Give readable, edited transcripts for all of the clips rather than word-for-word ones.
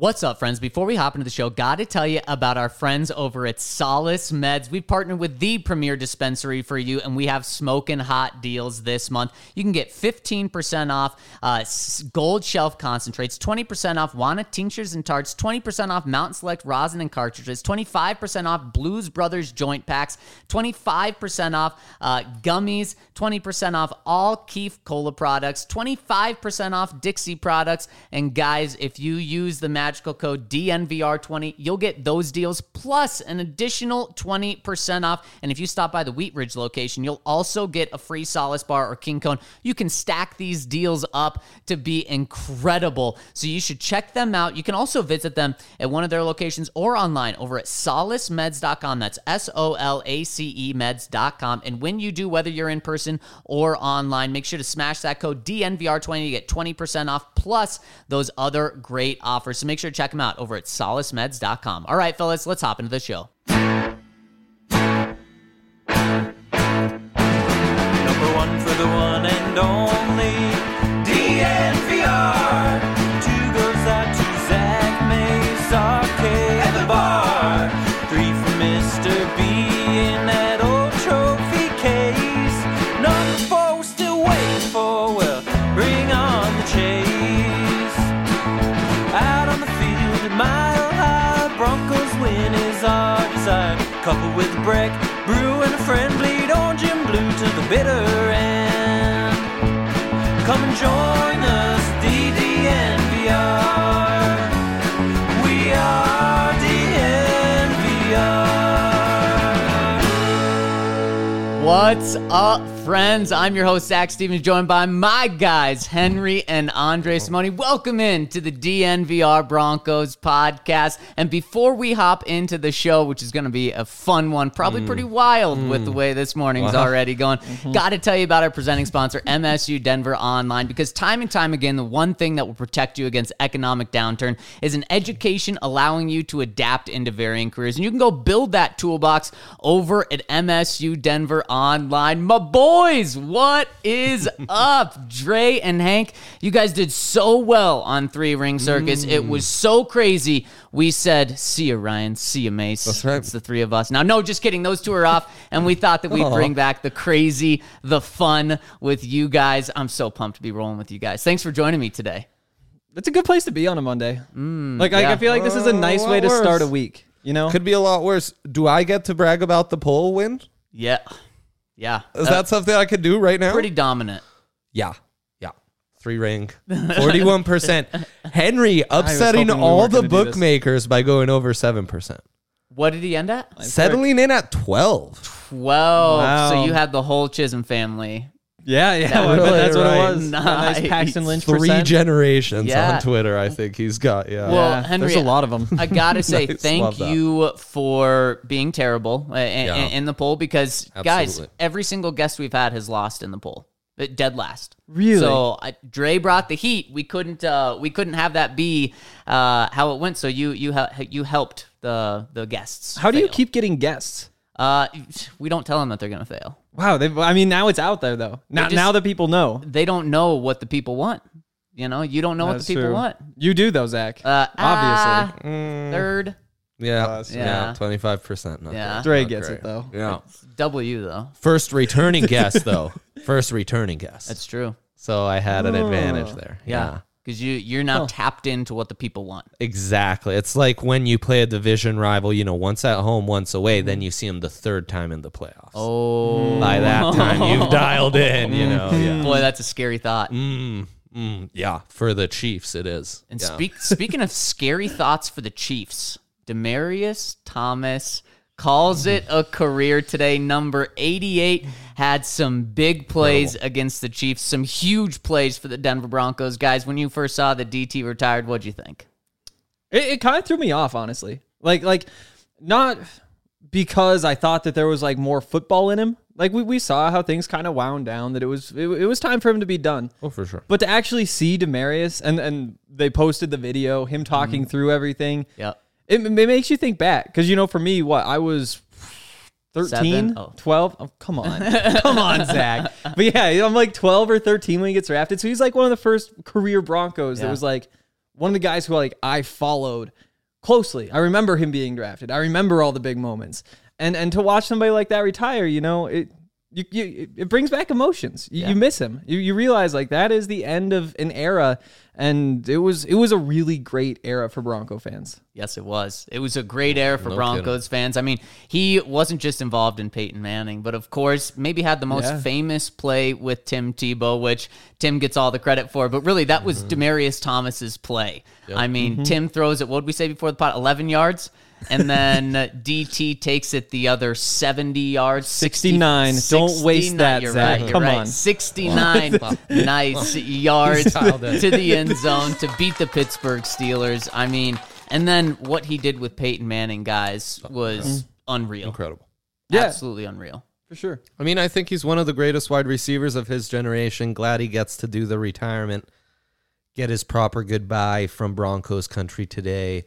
What's up, friends? Before we hop into the show, got to tell you about our friends over at Solace Meds. We've partnered with the premier dispensary for you, and we have smoking hot deals this month. You can get 15% off Gold Shelf concentrates, 20% off Wana tinctures and tarts, 20% off Mountain Select rosin and cartridges, 25% off Blues Brothers joint packs, 25% off gummies, 20% off all Keef Cola products, 25% off Dixie products. And guys, if you use the magical code DNVR20, you'll get those deals plus an additional 20% off. And if you stop by the Wheat Ridge location, you'll also get a free Solace bar or King Cone. You can stack these deals up to be incredible. So you should check them out. You can also visit them at one of their locations or online over at solacemeds.com. That's SOLACE meds.com. And when you do, whether you're in person or online, make sure to smash that code DNVR20 to get 20% off plus those other great offers. So make sure to check them out over at solacemeds.com. All right, fellas, let's hop into the show. Number one for the one and only DNVR. Two goes out to Zach Mace, Arcade, and the bar. Three for Mr. B in that old trophy case. Number four we're still waiting for, well, bring on the chase. Out on the field at Mile High, Broncos win is our desire. Coupled with Breck, Brew, and a friend, bleed orange and blue to the bitter end. Come and join us, DNVR. We are DNVR. What's up, friends? I'm your host, Zach Stevens, joined by my guys, Henry and Andre Simone. Welcome in to the DNVR Broncos podcast. And before we hop into the show, which is going to be a fun one, probably pretty wild with the way this morning's already going, got to tell you about our presenting sponsor, MSU Denver Online, because time and time again, the one thing that will protect you against economic downturn is an education allowing you to adapt into varying careers. And you can go build that toolbox over at MSU Denver Online. My boys, what is up? Dre and Hank, you guys did so well on Three Ring Circus. It was so crazy. We said, see you, Ryan. See you, Mace. That's right. It's the three of us. Now, no, just kidding. Those two are off, and we thought that we'd bring back the crazy, the fun with you guys. I'm so pumped to be rolling with you guys. Thanks for joining me today. It's a good place to be on a Monday. I feel like this is a nice way to worse. start a week. You know, Could be a lot worse. Do I get to brag about the poll win? Yeah. Is that something I could do right now? Pretty dominant? Yeah. Three ring. 41%. Henry upsetting hoping we all weren't the gonna do this. bookmakers by going over 7%. What did he end at? Settling in at 12. 12. Wow. So you had the whole Chisholm family. yeah, really that's what right. it was. Nice. Nice Paxton Lynch 3 percent. generations Yeah. on Twitter, I think he's got. Yeah. Well, Yeah, Henry, there's a lot of them. I gotta say, Nice. thank Love that. you for being terrible in the poll because, guys, Absolutely. every single guest we've had has lost in the poll, dead last. Really? So Dre brought the heat. We couldn't have that be how it went. So you helped the guests. How do you fail. keep getting guests? We don't tell them that they're gonna fail. Wow, now it's out there though. Now that people know. They don't know what the people want. You know, you don't know what That's the people true. want. You do though, Zach. Obviously. Third. Yeah. Yeah. 25%. Not Yeah. great. Dre Not gets great. it though. Yeah. W though. First returning guest, though. First returning guest. That's true. So I had an advantage there. Yeah. Because you're now tapped into what the people want. Exactly. It's like when you play a division rival, once at home, once away, then you see them the third time in the playoffs. Oh. By that time, you've dialed in, Yeah. Boy, that's a scary thought. Yeah. For the Chiefs, it is. And Yeah. speaking of scary thoughts for the Chiefs, Demaryius Thomas calls it a career today. Number 88 had some big plays against the Chiefs, some huge plays for the Denver Broncos. Guys, when you first saw that DT retired, what'd you think? It kind of threw me off, honestly. Like not because I thought that there was like more football in him. Like we saw how things kind of wound down, that it was time for him to be done. Oh, for sure. But to actually see Demaryius and they posted the video, him talking through everything. Yep. It makes you think back. Because, for me, I was 13, 7? Oh. 12. Oh, come on. Come on, Zach. But yeah, I'm like 12 or 13 when he gets drafted. So he's like one of the first career Broncos that was like, one of the guys who I followed closely. I remember him being drafted. I remember all the big moments. And to watch somebody like that retire, it brings back emotions. You miss him. You realize that is the end of an era, and it was a really great era for Bronco fans. Yes, it was. It was a great era for Broncos fans. I mean, he wasn't just involved in Peyton Manning, but of course, maybe had the most famous play with Tim Tebow, which Tim gets all the credit for. But really, that was Demaryius Thomas's play. Yep. I mean, Tim throws it, what did we say before the pot? 11 yards? And then DT takes it the other 70 yards. 69. Don't waste that, you're Zach. Right, Come on. 69 nice yards to the end zone to beat the Pittsburgh Steelers. I mean, and then what he did with Peyton Manning, guys, was unreal. Incredible. Yeah. Absolutely unreal. For sure. I mean, I think he's one of the greatest wide receivers of his generation. Glad he gets to do the retirement, get his proper goodbye from Broncos country today.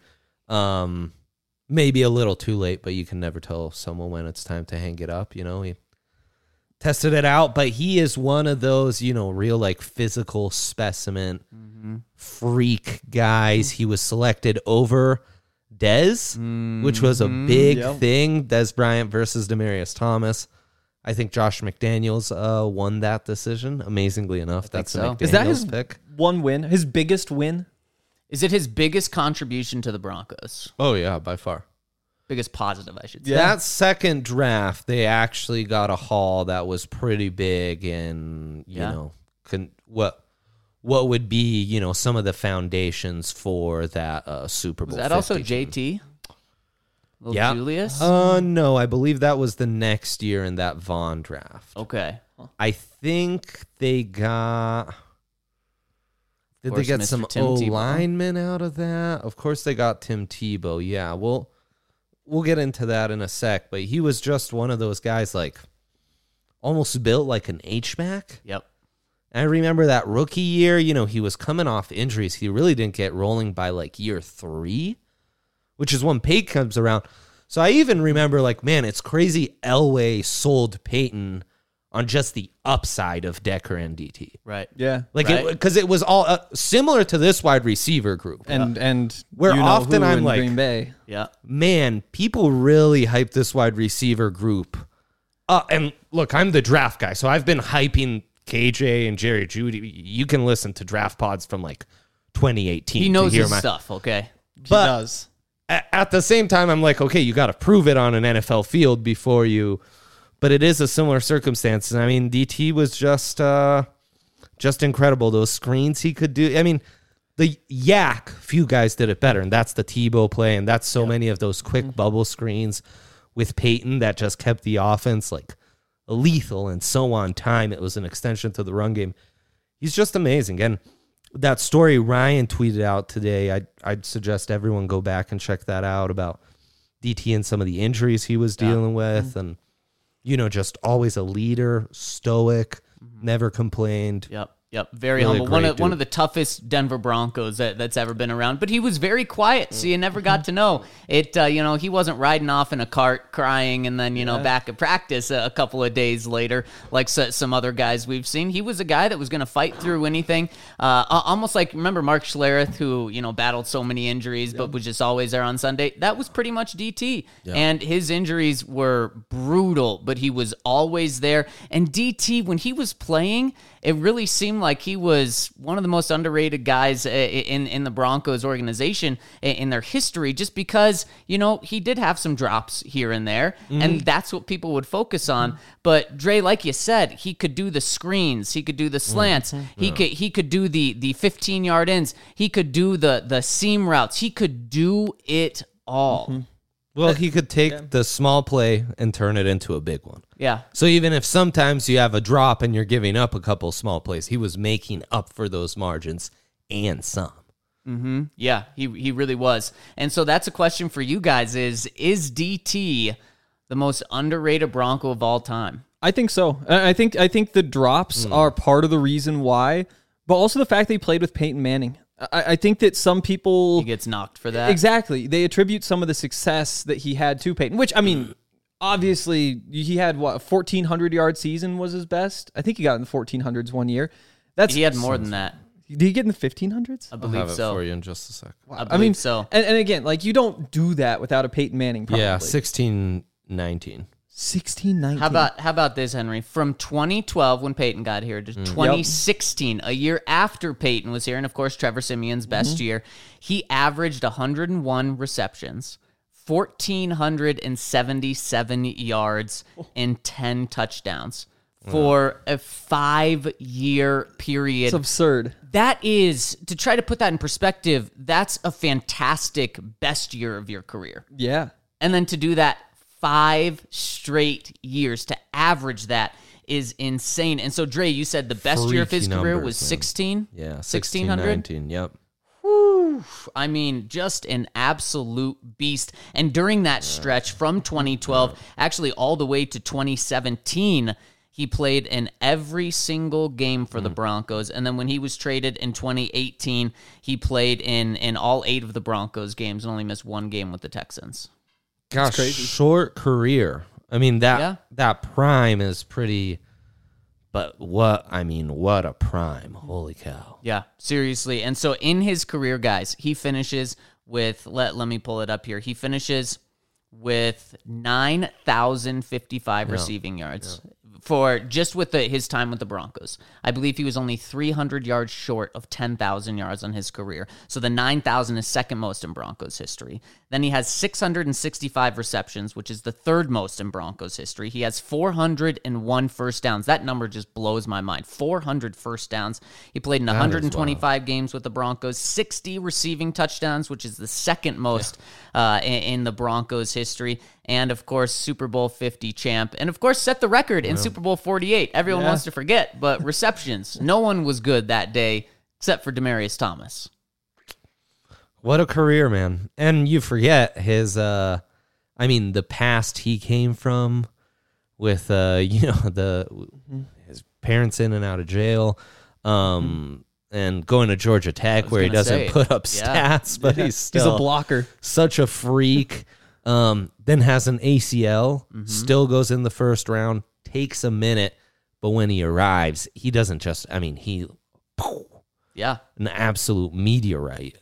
Maybe a little too late, but you can never tell someone when it's time to hang it up. He tested it out, but he is one of those, real physical specimen freak guys. He was selected over Dez, which was a big thing. Dez Bryant versus Demaryius Thomas. I think Josh McDaniels won that decision. Amazingly enough, that's the McDaniels Is that his pick. one win? His biggest win? Is it his biggest contribution to the Broncos? Oh, yeah, by far. Biggest positive, I should say. That second draft, they actually got a haul that was pretty big, and what would be some of the foundations for that Super Bowl. Was that also 50 JT? Little Yeah. Julius? No, I believe that was the next year in that Vaughn draft. Okay. I think they got. Did they course, get Mr. some Tim Tebow. O-linemen out of that? Of course they got Tim Tebow. Yeah, we'll get into that in a sec, but he was just one of those guys almost built like an H-back. Yep. And I remember that rookie year, he was coming off injuries. He really didn't get rolling by year 3, which is when Peyton comes around. So I even remember man, it's crazy Elway sold Peyton on just the upside of Decker and DT. Right. Yeah. Because it was all similar to this wide receiver group. And Where often who I'm in like, Green Bay. Yeah. Man, people really hype this wide receiver group. And look, I'm the draft guy, so I've been hyping KJ and Jerry Jeudy. You can listen to draft pods from 2018. He knows to hear his stuff, okay? He does. At the same time, I'm okay, you got to prove it on an NFL field before you. But it is a similar circumstance. I mean, DT was just incredible. Those screens he could do. I mean, the Yak, few guys did it better, and that's the Tebow play, and that's so many of those quick bubble screens with Peyton that just kept the offense lethal and so on time. It was an extension to the run game. He's just amazing. And that story Ryan tweeted out today, I'd suggest everyone go back and check that out about DT and some of the injuries he was dealing with, and just always a leader, stoic, never complained. Yep. Very Really humble. great One of the toughest Denver Broncos that's ever been around. But he was very quiet, so you never got to know it. He wasn't riding off in a cart crying and then back at practice a couple of days later like some other guys we've seen. He was a guy that was going to fight through anything. Almost remember Mark Schlereth, who battled so many injuries but was just always there on Sunday. That was pretty much DT, and his injuries were brutal, but he was always there. And DT, when he was playing, it really seemed like he was one of the most underrated guys in the Broncos organization in their history, just because, he did have some drops here and there, and that's what people would focus on. But Dre, like you said, he could do the screens, he could do the slants, he could do the 15-yard ends, he could do the seam routes, he could do it all. Well, he could take the small play and turn it into a big one. Yeah. So even if sometimes you have a drop and you're giving up a couple small plays, he was making up for those margins and some. Yeah, he really was. And so that's a question for you guys is DT the most underrated Bronco of all time? I think so. I think the drops are part of the reason why, but also the fact that he played with Peyton Manning. I think that some people... He gets knocked for that. Exactly. They attribute some of the success that he had to Peyton, which, I mean, obviously, he had, a 1,400-yard season was his best? I think he got in the 1,400s one year. He had more than that. Did he get in the 1500s? I I'll believe have it so. for you in just a second. I mean, so. And again, like you don't do that without a Peyton Manning. Probably. Yeah, 1619. 1619. How about this, Henry? From 2012 when Peyton got here to 2016, a year after Peyton was here, and of course Trevor Simeon's best year, he averaged 101 receptions, 1,477 yards, and 10 touchdowns for a 5-year period. It's absurd. That is, to try to put that in perspective, that's a fantastic best year of your career. Yeah. And then to do that 5 straight years, to average that is insane. And so, Dre, you said the best year of his Freaky career numbers, was man. 16? Yeah, 1600? 1619. Yep. I mean, just an absolute beast. And during that stretch from 2012, actually all the way to 2017, he played in every single game for the Broncos. And then when he was traded in 2018, he played in all 8 of the Broncos games and only missed 1 game with the Texans. Gosh, crazy. short career. I mean, Yeah. that prime is pretty, but what a prime. Holy cow. Yeah, seriously. And so in his career, guys, he finishes with, let me pull it up here. He finishes with 9,055 receiving yards for just with his time with the Broncos. I believe he was only 300 yards short of 10,000 yards on his career. So the 9,000 is second most in Broncos history. Then he has 665 receptions, which is the third most in Broncos history. He has 401 first downs. That number just blows my mind. 400 first downs. He played in 125 games with the Broncos, 60 receiving touchdowns, which is the second most in the Broncos history. And, of course, Super Bowl 50 champ. And, of course, set the record in Super Bowl 48. Everyone wants to forget, but receptions. No one was good that day except for Demaryius Thomas. What a career, man. And you forget his, the past he came from with, his parents in and out of jail, and going to Georgia Tech where he doesn't put up stats, but he's still He's a blocker. such a freak. Then has an ACL, still goes in the first round, takes a minute, but when he arrives, he doesn't just, Yeah. an absolute meteorite.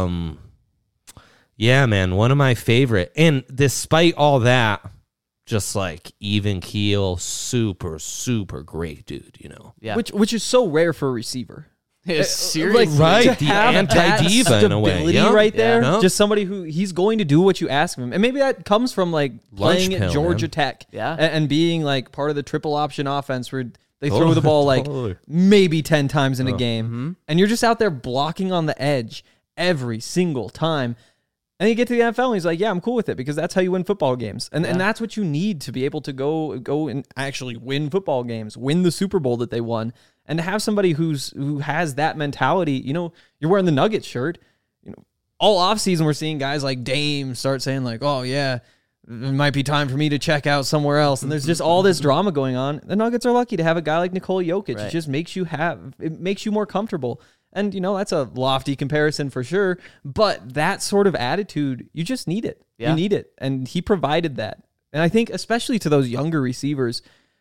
Yeah, man, one of my favorite. And despite all that, just like even keel, super, super great dude, Yeah. Which is so rare for a receiver. Seriously. Right, to the have anti-diva that in a way. stability Yep. right there. Yeah. Just somebody who he's going to do what you ask of him. And maybe that comes from like playing Lunch at pill, Georgia man. Tech Yeah. and being like part of the triple option offense where they throw the ball like totally. maybe 10 times in a game. And you're just out there blocking on the edge every single time. And you get to the NFL and he's like, yeah, I'm cool with it because that's how you win football games. And that's what you need to be able to go and actually win football games, win the Super Bowl that they won. And to have somebody who has that mentality, you're wearing the Nuggets shirt, all offseason we're seeing guys like Dame start saying like, oh yeah, it might be time for me to check out somewhere else. And there's just all this drama going on. The Nuggets are lucky to have a guy like Nikola Jokic. Right. It just makes you more comfortable. And, that's a lofty comparison for sure. But that sort of attitude, you just need it. Yeah. You need it. And he provided that. And I think especially to those younger receivers,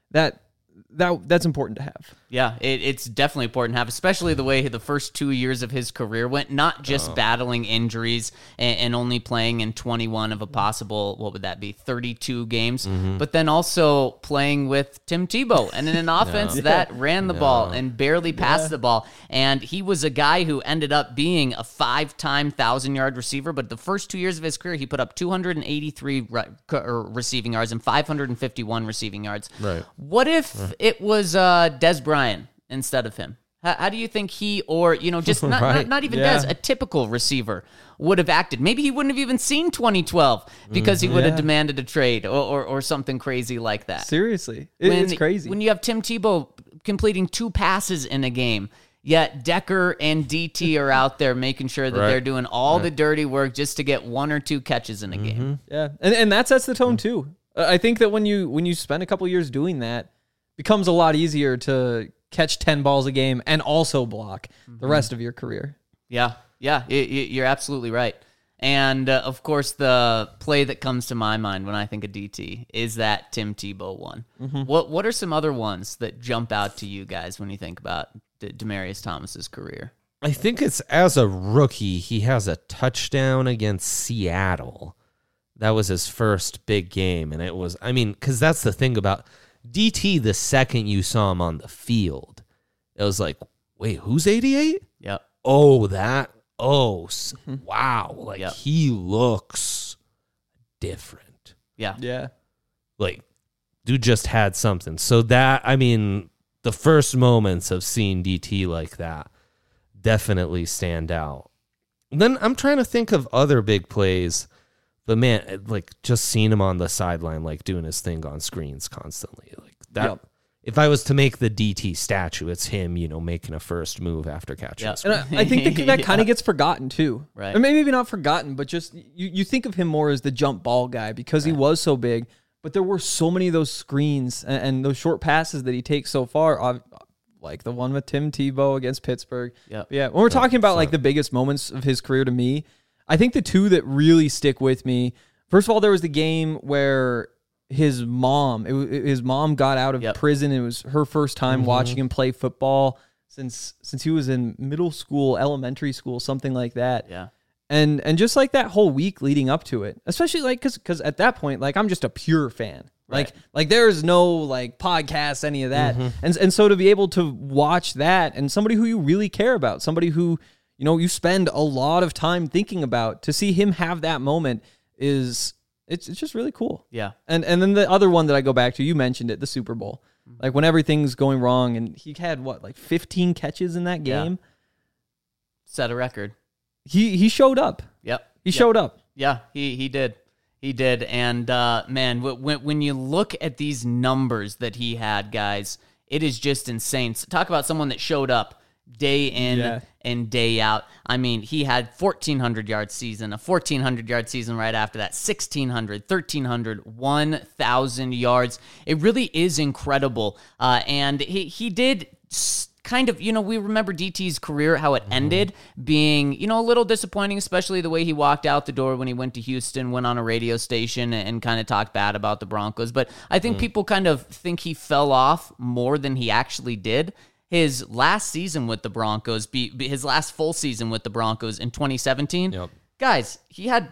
that's important to have. Yeah, it's definitely important to have, especially the way the first 2 years of his career went, not just battling injuries and only playing in 21 of a possible, what would that be, 32 games, but then also playing with Tim Tebow and in an offense that ran the ball and barely passed the ball. And he was a guy who ended up being a 5-time 1,000-yard receiver, but the first 2 years of his career, he put up 283 receiving yards and 551 receiving yards. Right. What if it was Des Bryant instead of him? How do you think he, or just not even Yeah. Des, a typical receiver would have acted? Maybe he wouldn't have even seen 2012 because he would have demanded a trade or something crazy like that. Seriously. It's crazy. When you have Tim Tebow completing 2 passes in a game, yet Decker and DT are out there making sure that they're doing all the dirty work just to get 1 or 2 catches in a game. Yeah, and that sets the tone too. I think that when you spend a couple years doing that, it becomes a lot easier to catch 10 balls a game and also block the rest of your career. Yeah, you're absolutely right. And, of course, the play that comes to my mind when I think of DT is that Tim Tebow one. What are some other ones that jump out to you guys when you think about Demaryius Thomas's career? I think it's as a rookie, he has a touchdown against Seattle. That was his first big game. And it was, I mean, because that's the thing about DT, the second you saw him on the field, it was like, wait, who's 88? Yep. Oh, wow. Like, Yep. he looks different. Yeah. Yeah. Like, dude just had something. So that, I mean, the first moments of seeing DT like that definitely stand out. Then I'm trying to think of other big plays, but man, like just seeing him on the sideline, like doing his thing on screens constantly, like that. Yep. If I was to make the DT statue, it's him, making a first move after catching. Yep. a screen. And I think that kind of gets forgotten too. Right. Or maybe not forgotten, but just you think of him more as the jump ball guy because he was so big. But there were so many of those screens and those short passes that he takes so far, like the one with Tim Tebow against Pittsburgh. Yep. Yeah. When we're talking about like the biggest moments of his career to me, I think the two that really stick with me, first of all, there was the game where his mom got out of prison. It was her first time watching him play football since he was in middle school, elementary school, something like that. Yeah. And just like that whole week leading up to it, especially like because at that point, like I'm just a pure fan. Right. Like there's no like podcasts, any of that. And so to be able to watch that and somebody who you really care about, somebody who, you spend a lot of time thinking about, to see him have that moment it's just really cool. Yeah. And then the other one that I go back to, you mentioned it, the Super Bowl. Like when everything's going wrong and he had 15 catches in that game. Set a record. He showed up. Yep. He showed up. Yeah, he did. He did. And man, when you look at these numbers that he had, guys, it is just insane. So talk about someone that showed up day in and day out. I mean, he had 1,400-yard season, a 1,400-yard season right after that, 1,600, 1,300, 1,000 yards. It really is incredible. And he did kind of, we remember DT's career, how it ended being, a little disappointing, especially the way he walked out the door when he went to Houston, went on a radio station and kind of talked bad about the Broncos. But I think people kind of think he fell off more than he actually did. His last season with the Broncos, his last full season with the Broncos in 2017, guys, he had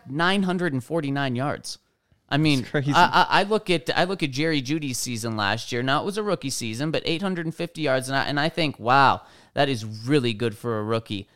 949 yards. I mean, I look at Jerry Jeudy's season last year. Now it was a rookie season, but 850 yards, and I think, wow, that is really good for a rookie.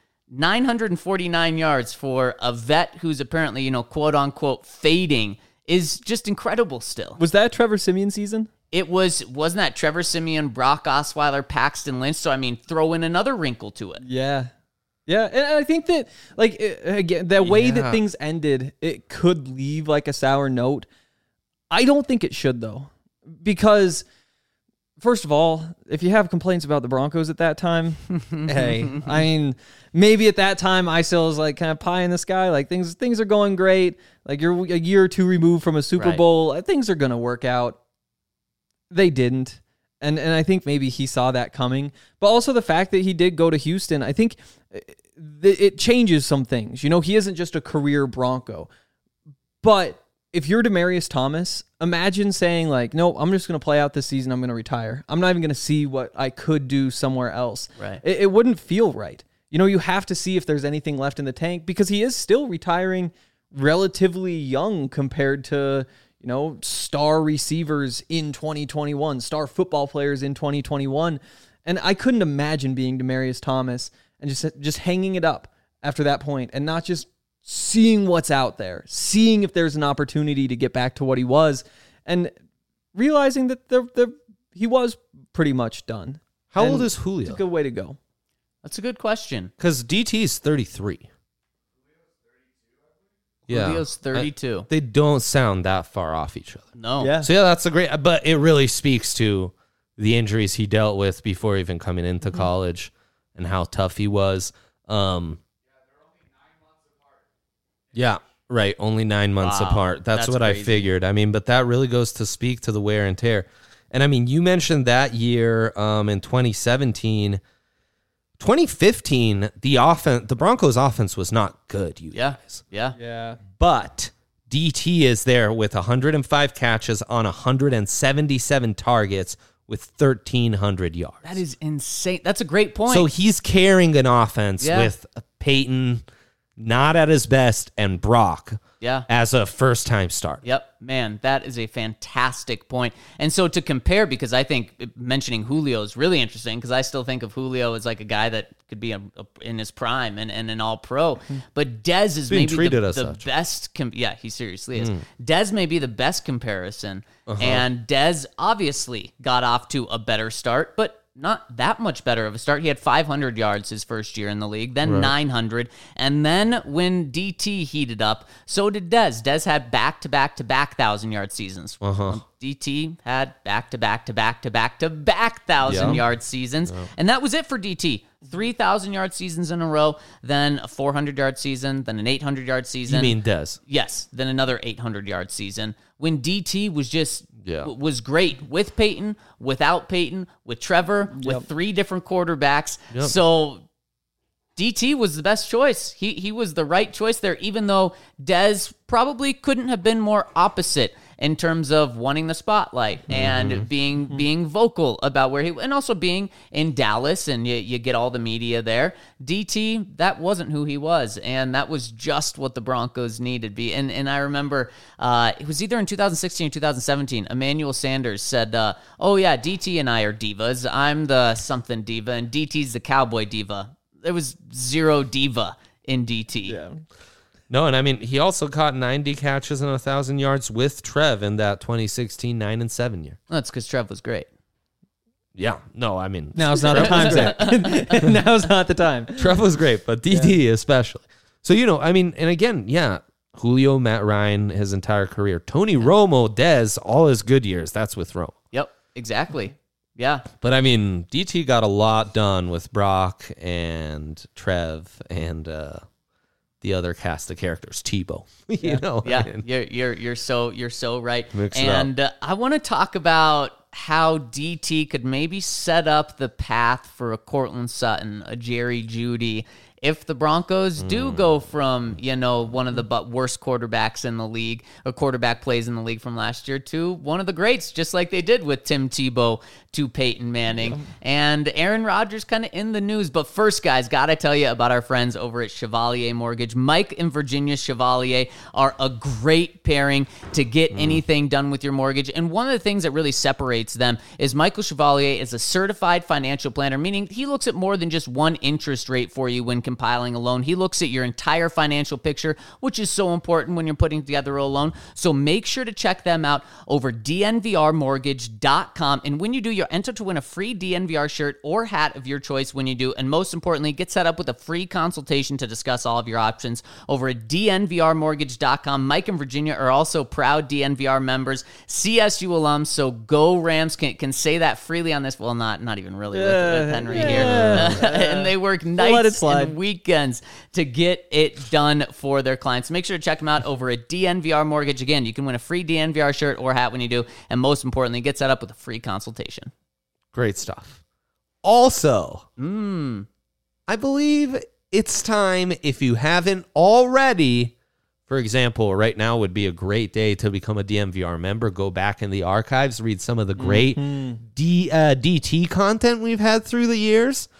949 yards for a vet who's apparently, quote unquote, fading is just incredible. Still, was that Trevor Siemian season? It wasn't that Trevor Siemian, Brock Osweiler, Paxton Lynch? So I mean, throw in another wrinkle to it. Yeah. Yeah, and I think that, again, the way that things ended, it could leave, a sour note. I don't think it should, though, because, first of all, if you have complaints about the Broncos at that time, hey, I mean, maybe at that time I still was, kind of pie in the sky, things are going great, you're a year or two removed from a Super Bowl, things are going to work out. They didn't. And I think maybe he saw that coming. But also the fact that he did go to Houston, I think it changes some things. He isn't just a career Bronco. But if you're Demaryius Thomas, imagine saying, no, I'm just going to play out this season. I'm going to retire. I'm not even going to see what I could do somewhere else. Right. It wouldn't feel right. You have to see if there's anything left in the tank because he is still retiring relatively young compared to star receivers in 2021, star football players in 2021. And I couldn't imagine being Demaryius Thomas and just hanging it up after that point and not just seeing what's out there, seeing if there's an opportunity to get back to what he was and realizing that he was pretty much done. How old is Julio? It's a good way to go. That's a good question. Because DT is 33. Yeah, Julio's 32. They don't sound that far off each other. No. Yeah. So that's a great, but it really speaks to the injuries he dealt with before even coming into college and how tough he was. Yeah, right. Only 9 months apart. That's what crazy. I figured. I mean, but that really goes to speak to the wear and tear. And I mean, you mentioned that year in 2017. 2015, the Broncos offense was not good, you guys. Yeah. But DT is there with 105 catches on 177 targets with 1,300 yards. That is insane. That's a great point. So he's carrying an offense Yeah. with Peyton not at his best and Brock Yeah. as a first-time start. Yep, man, that is a fantastic point. And so to compare, because I think mentioning Julio is really interesting, because I still think of Julio as like a guy that could be in his prime and an all-pro. But Dez is Being maybe treated the as such. best. Yeah, he seriously is. Dez may be the best comparison. And Dez obviously got off to a better start, but not that much better of a start. He had 500 yards his first year in the league, then 900. And then when DT heated up, so did Dez. Dez had back-to-back-to-back 1,000-yard seasons. DT had back-to-back-to-back-to-back 1,000-yard seasons. And that was it for DT. 3,000-yard seasons in a row, then a 400-yard season, then an 800-yard season. You mean Dez? Yes, then another 800-yard season. When DT was just Yeah. was great with Peyton, without Peyton, with Trevor, with 3 different quarterbacks. So DT was the best choice. He was the right choice there, even though Dez probably couldn't have been more opposite in terms of wanting the spotlight and being vocal about where he, and also being in Dallas, and you get all the media there. DT, that wasn't who he was, and that was just what the Broncos needed. And I remember it was either in 2016 or 2017, Emmanuel Sanders said, oh yeah, DT and I are divas. I'm the something diva, and DT's the cowboy diva. There was zero diva in DT. Yeah. No, and I mean, he also caught 90 catches and 1,000 yards with Trev in that 2016 9-7 year. That's because Trev was great. Yeah. No, I mean, Now's not the time, Zach. Now's not the time. Trev was great, but DT especially. So, I mean, and again, yeah, Julio, Matt Ryan, his entire career. Tony Romo, Dez, all his good years. That's with Romo. Yep, exactly. Yeah. But I mean, DT got a lot done with Brock and Trev and the other cast of characters, Tebow. Yeah, I mean, you're so right. Mix it And I want to talk about how DT could maybe set up the path for a Cortland Sutton, a Jerry Jeudy, if the Broncos do go from, one of the worst quarterbacks in the league, or quarterback plays in the league from last year, to one of the greats, just like they did with Tim Tebow to Peyton Manning. And Aaron Rodgers kind of in the news. But first, guys, got to tell you about our friends over at Chevalier Mortgage. Mike and Virginia Chevalier are a great pairing to get anything done with your mortgage. And one of the things that really separates them is Michael Chevalier is a certified financial planner, meaning he looks at more than just one interest rate for you when compiling a loan. He looks at your entire financial picture, which is so important when you're putting together a loan. So make sure to check them out over dnvrmortgage.com. And when you do, you're entered to win a free DNVR shirt or hat of your choice when you do. And most importantly, get set up with a free consultation to discuss all of your options over at dnvrmortgage.com. Mike and Virginia are also proud DNVR members, CSU alums. So go Rams, can say that freely on this. Well, not even really with Henry here. And they work nights and weekends to get it done for their clients. Make sure to check them out over at DNVR Mortgage. Again, you can win a free DNVR shirt or hat when you do. And most importantly, get set up with a free consultation. Great stuff. Also, I believe it's time, if you haven't already, for example, right now would be a great day to become a DNVR member. Go back in the archives, read some of the great DT content we've had through the years.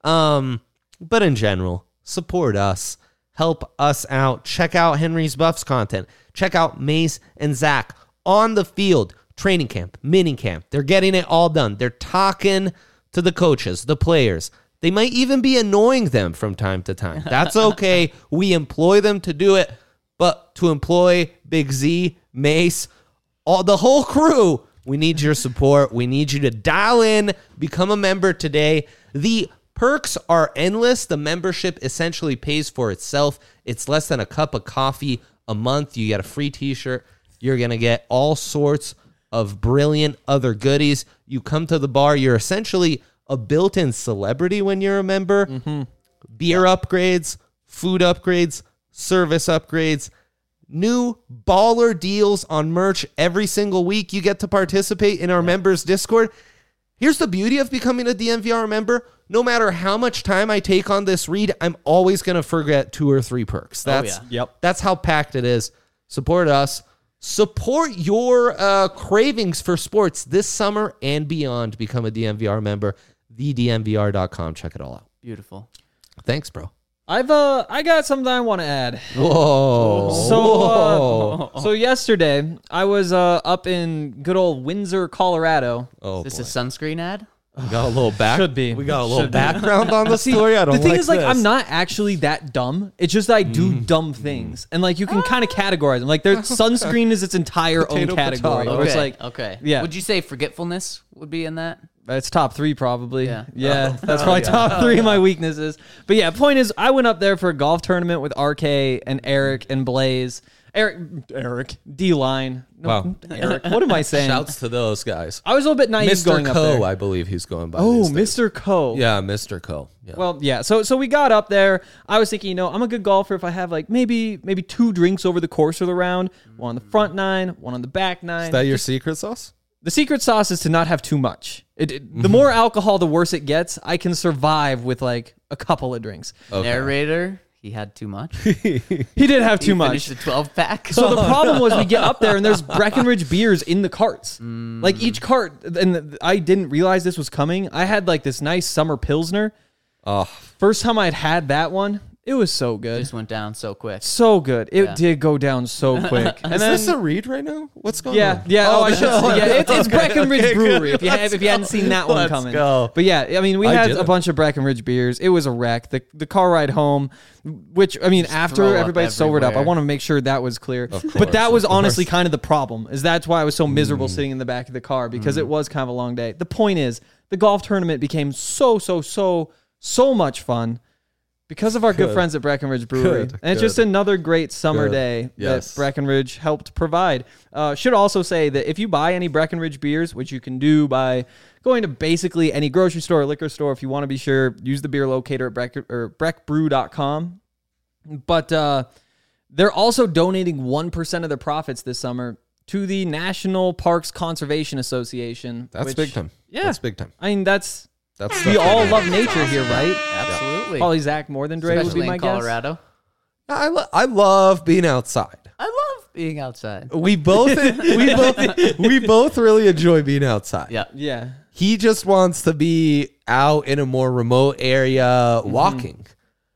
But in general, support us. Help us out. Check out Henry's Buffs content. Check out Mace and Zach on the field. Training camp, mini camp. They're getting it all done. They're talking to the coaches, the players. They might even be annoying them from time to time. That's okay. We employ them to do it. But to employ Big Z, Mace, the whole crew, we need your support. We need you to dial in, become a member today. The perks are endless. The membership essentially pays for itself. It's less than a cup of coffee a month. You get a free t-shirt. You're going to get all sorts of brilliant other goodies. You come to the bar, you're essentially a built-in celebrity when you're a member. Beer upgrades, food upgrades, service upgrades, new baller deals on merch every single week. You get to participate in our members Discord. Here's the beauty of becoming a DNVR member. No matter how much time I take on this read, I'm always going to forget 2 or 3 perks. That's how packed it is. Support us. Support your cravings for sports this summer and beyond. Become a DNVR member, thednvr.com. Check it all out. Beautiful. Thanks, bro. I got something I want to add. Whoa. So yesterday I was up in good old Windsor, Colorado. Oh, Is boy. this a sunscreen ad? We got a little back. Should be. We got a little Should be. background on the story. I don't The thing like is, like, this. I'm not actually that dumb. It's just that I do dumb things, and like you can kind of categorize them. Like, there's sunscreen is its entire Potato, own category. potato. Where it's like, okay. yeah. Would you say forgetfulness would be in that? it's top 3 probably. Yeah. That's probably top 3 of my weaknesses. But yeah, point is, I went up there for a golf tournament with RK and Eric and Blaze. Eric, D-Line. No, Wow. Eric. What am I saying? Shouts to those guys. I was a little bit naive Mr. going up Co, there. I believe he's going by. Oh, these days. Mr. Co. Yeah, Mr. Co. Yeah. Well, yeah. So we got up there. I was thinking, I'm a good golfer if I have like maybe 2 drinks over the course of the round. One on the front 9, one on the back 9. Is that your secret sauce? The secret sauce is to not have too much. The more alcohol, the worse it gets. I can survive with like a couple of drinks. Okay. Narrator, he had too much. He did have too much. Finished the 12-pack. So the problem was we get up there and there's Breckenridge beers in the carts. Like each cart, and I didn't realize this was coming. I had like this nice summer Pilsner. Oh, First time I'd had that one, it was so good. just went down so quick. So good. It did go down so quick. And is then, this a read right now? What's going yeah, on? yeah. Oh, I should. no. Yeah, it's Breckenridge okay, Brewery. good. If you hadn't seen that one Let's coming. go. But yeah, I mean, we I had did a it. bunch of Breckenridge beers. It was a wreck. The car ride home, which I mean, throw after up everybody sobered up, I everywhere. want to make sure that was clear. course, But that was of honestly course. kind of the problem. Is that's why I was so miserable sitting in the back of the car because it was kind of a long day. The point is, the golf tournament became so much fun. Because of our good friends at Breckenridge Brewery. Good, And it's just another great summer Good. day Yes. that Breckenridge helped provide. Should also say that if you buy any Breckenridge beers, which you can do by going to basically any grocery store or liquor store, if you want to be sure, use the beer locator at breckbrew.com. But they're also donating 1% of their profits this summer to the National Parks Conservation Association. That's which- big time. Yeah. That's big time. I mean, That's we stuff all they do. love nature here, right? Absolutely. Probably Zach more than Dre would Especially be my in guess. Colorado. I love being outside. I love being outside. We both we both really enjoy being outside. Yeah. Yeah. He just wants to be out in a more remote area walking.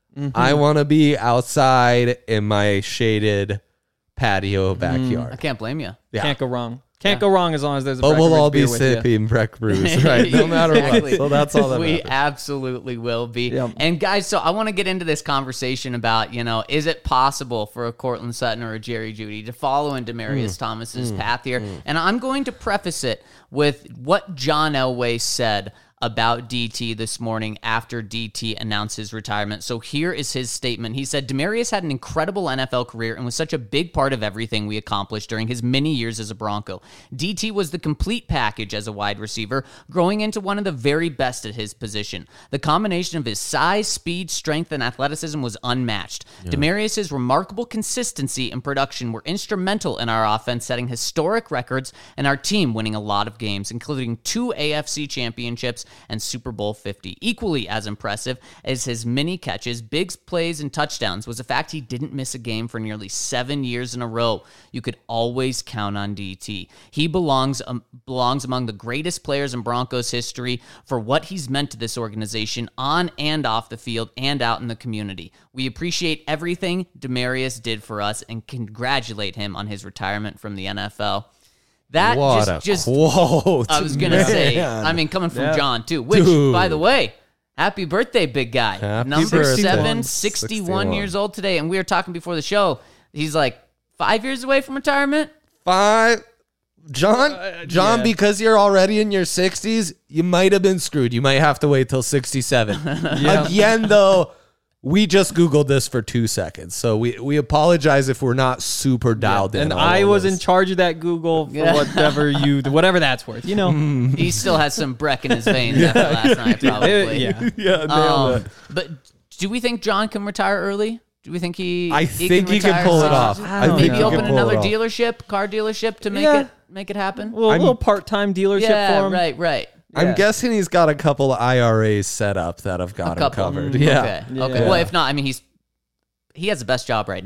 I want to be outside in my shaded patio I backyard. can't blame you. Yeah. Can't go wrong. Can't go wrong as long as there's a But we'll Breckenridge all be beer with you. sipping Breck brews, right? No matter Exactly. what. So that's all that We matters. absolutely will be. Yep. And guys, so I want to get into this conversation about, is it possible for a Cortland Sutton or a Jerry Jeudy to follow in Demaryius Thomas's path here? And I'm going to preface it with what John Elway said about DT this morning after DT announced his retirement. So here is his statement. He said, Demaryius had an incredible NFL career and was such a big part of everything we accomplished during his many years as a Bronco. DT was the complete package as a wide receiver, growing into one of the very best at his position. The combination of his size, speed, strength, and athleticism was unmatched. Demaryius's remarkable consistency and production were instrumental in our offense setting historic records and our team winning a lot of games, including 2 AFC championships and Super Bowl 50. Equally as impressive as his many catches, big plays, and touchdowns was the fact he didn't miss a game for nearly 7 years in a row. You could always count on DT. He belongs among the greatest players in Broncos history for what he's meant to this organization on and off the field and out in the community. We appreciate everything Demaryius did for us and congratulate him on his retirement from the NFL. That What just a quote. I was going to say, man. I mean, coming from John, too, which, Dude. by the way, happy birthday, big guy. Happy Number birthday. 7, 61 years old today. And we were talking before the show. He's like 5 years away from retirement. 5. John, yeah. because you're already in your 60s, you might have been screwed. You might have to wait till 67. Again, though, we just Googled this for 2 seconds. So we apologize if we're not super dialed in. And on I all was this. in charge of that Google for Yeah. whatever that's worth. You know. He still has some Breck in his veins after last night, probably. Yeah. Yeah, nailed it. But do we think John can retire early? Do we think I think he can retire pull it soon? off. I don't Maybe know. open pull it another off. dealership, car dealership to make it happen? A little part-time dealership Yeah, for him. right. I'm Yeah. guessing he's got a couple of IRAs set up that have got him covered. Yeah. Okay. Yeah. Okay. Well, if not, I mean, he has the best job right now.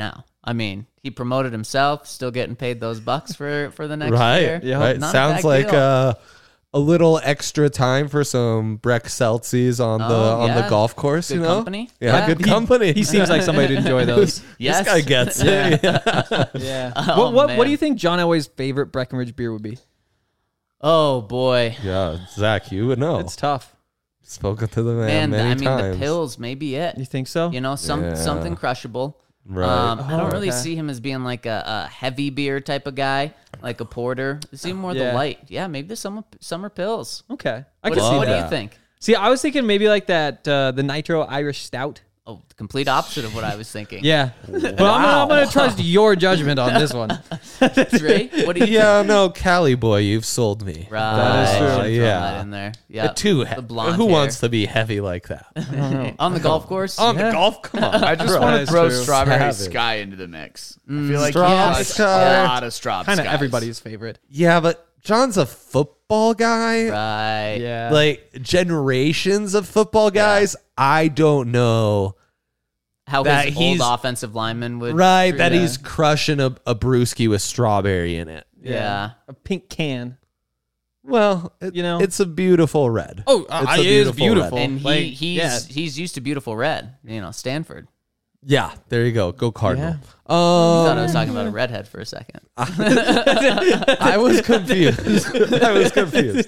I mean, he promoted himself, still getting paid those bucks for the next Right. year. Yeah. Right. Not a Sounds bad like deal. a little extra time for some Breck Celsius on the yeah. golf course. Good you know, company. Yeah, Yeah. good company. He seems like somebody to enjoy those. Yes. This guy gets it. Yeah. Yeah. Oh, what man. do you think John Elway's favorite Breckenridge beer would be? Oh boy, Yeah, Zach, you would know. It's tough. Spoken to the man, man. many I mean, times. the pills may be it. You think so? You know, Yeah. something crushable. Right. I don't really okay. see him as being like a heavy beer type of guy, like a porter. I see him more Yeah. the light. Yeah, maybe the summer pills. Okay. I What, can see what do that. you think? See, I was thinking maybe like that the Nitro Irish Stout. Oh, the complete opposite of what I was thinking. Yeah. But I'm gonna trust your judgment on this one. Ray, what do you Yeah, no, Cali boy, you've sold me. Right. That is true. Should've thrown Yeah. that in there. Yeah. Too the blonde Who hair. wants to be heavy like that? on the golf course? On the golf? Come on. I just bro. want That's to throw true. Strawberry Savage. Sky into the mix. I feel like Straw he touched Sky. a lot of Straw Kind of Skies. everybody's favorite. Yeah, but John's a football guy. Right. Yeah. Like generations of football guys. I don't know. How That his old he's- offensive lineman would. Right, that Yeah. he's crushing a brewski with strawberry in it. Yeah. A pink can. Well, You know? it's a beautiful red. Oh, It's a it is beautiful beautiful. red. And Like, he's used to beautiful red. You know, Stanford. Yeah, there you go. Go Cardinal. I thought I was Um, talking about a redhead for a second. I was confused. I was confused.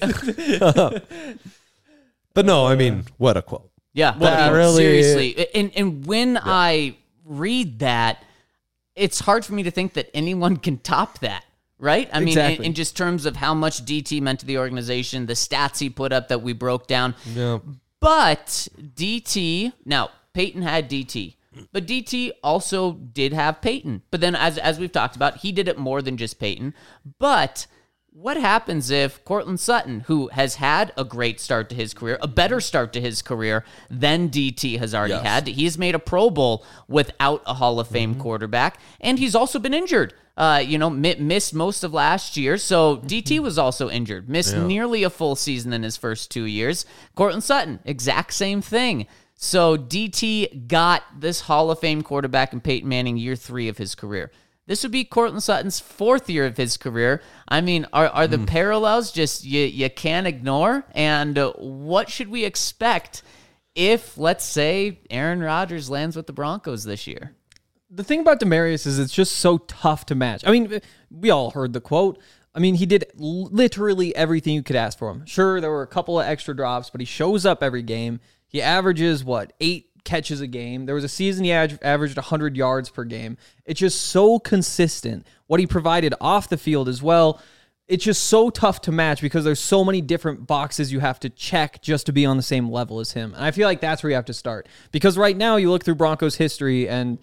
But no, I mean, what a quote. Yeah, That really- seriously. And when I read that, it's hard for me to think that anyone can top that, right? I mean, Exactly. in just terms of how much DT meant to the organization, the stats he put up that we broke down. Yeah. But DT, now Peyton had DT, but DT also did have Peyton. But then, as we've talked about, he did it more than just Peyton. But what happens if Cortland Sutton, who has had a great start to his career, a better start to his career than DT has already had? He's made a Pro Bowl without a Hall of Fame quarterback, and he's also been injured. Missed most of last year, so DT was also injured. Missed nearly a full season in his first 2 years. Cortland Sutton, exact same thing. So DT got this Hall of Fame quarterback in Peyton Manning year 3 of his career. This would be Cortland Sutton's 4th year of his career. I mean, are the parallels just you can't ignore? And what should we expect if, let's say, Aaron Rodgers lands with the Broncos this year? The thing about Demaryius is it's just so tough to match. I mean, we all heard the quote. I mean, he did literally everything you could ask for him. Sure, there were a couple of extra drops, but he shows up every game. He averages, 8 catches a game. There was a season he averaged 100 yards per game. It's just so consistent. What he provided off the field as well, it's just so tough to match because there's so many different boxes you have to check just to be on the same level as him. And I feel like that's where you have to start. Because right now you look through Broncos history and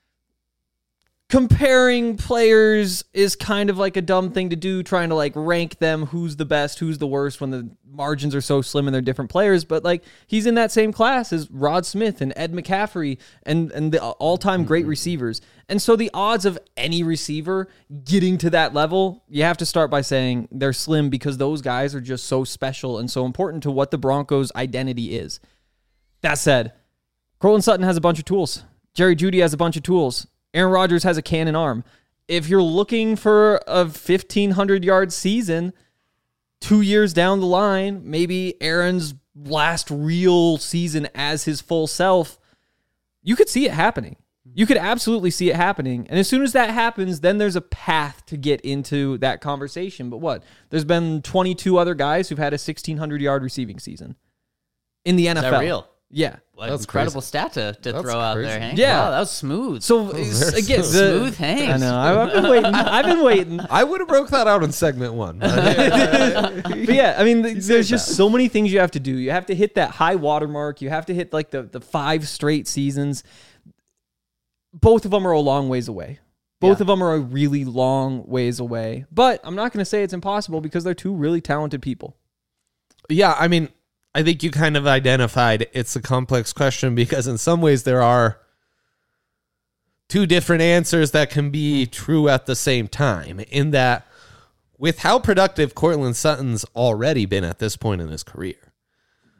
comparing players is kind of like a dumb thing to do, trying to like rank them, who's the best, who's the worst, when the margins are so slim and they're different players. But like he's in that same class as Rod Smith and Ed McCaffrey and the all-time great receivers. And so the odds of any receiver getting to that level, you have to start by saying they're slim because those guys are just so special and so important to what the Broncos' identity is. That said, Cortland Sutton has a bunch of tools. Jerry Jeudy has a bunch of tools. Aaron Rodgers has a cannon arm. If you're looking for a 1,500-yard season 2 years down the line, maybe Aaron's last real season as his full self, you could see it happening. You could absolutely see it happening. And as soon as that happens, then there's a path to get into that conversation. But what? There's been 22 other guys who've had a 1,600-yard receiving season in the NFL. Is that real? Yeah. That's Incredible stat to throw out crazy. there, Hank. Yeah. Wow, that was smooth. So again, smooth Hank. I know. I've been waiting. I've been waiting. I would have broke that out in segment 1. But yeah, I mean, there's just so many things you have to do. You have to hit that high watermark. You have to hit like the 5 straight seasons. Both of them are a long ways away. Both of them are a really long ways away. But I'm not going to say it's impossible because they're two really talented people. Yeah, I mean, I think you kind of identified it's a complex question because in some ways there are 2 different answers that can be true at the same time, in that with how productive Cortland Sutton's already been at this point in his career,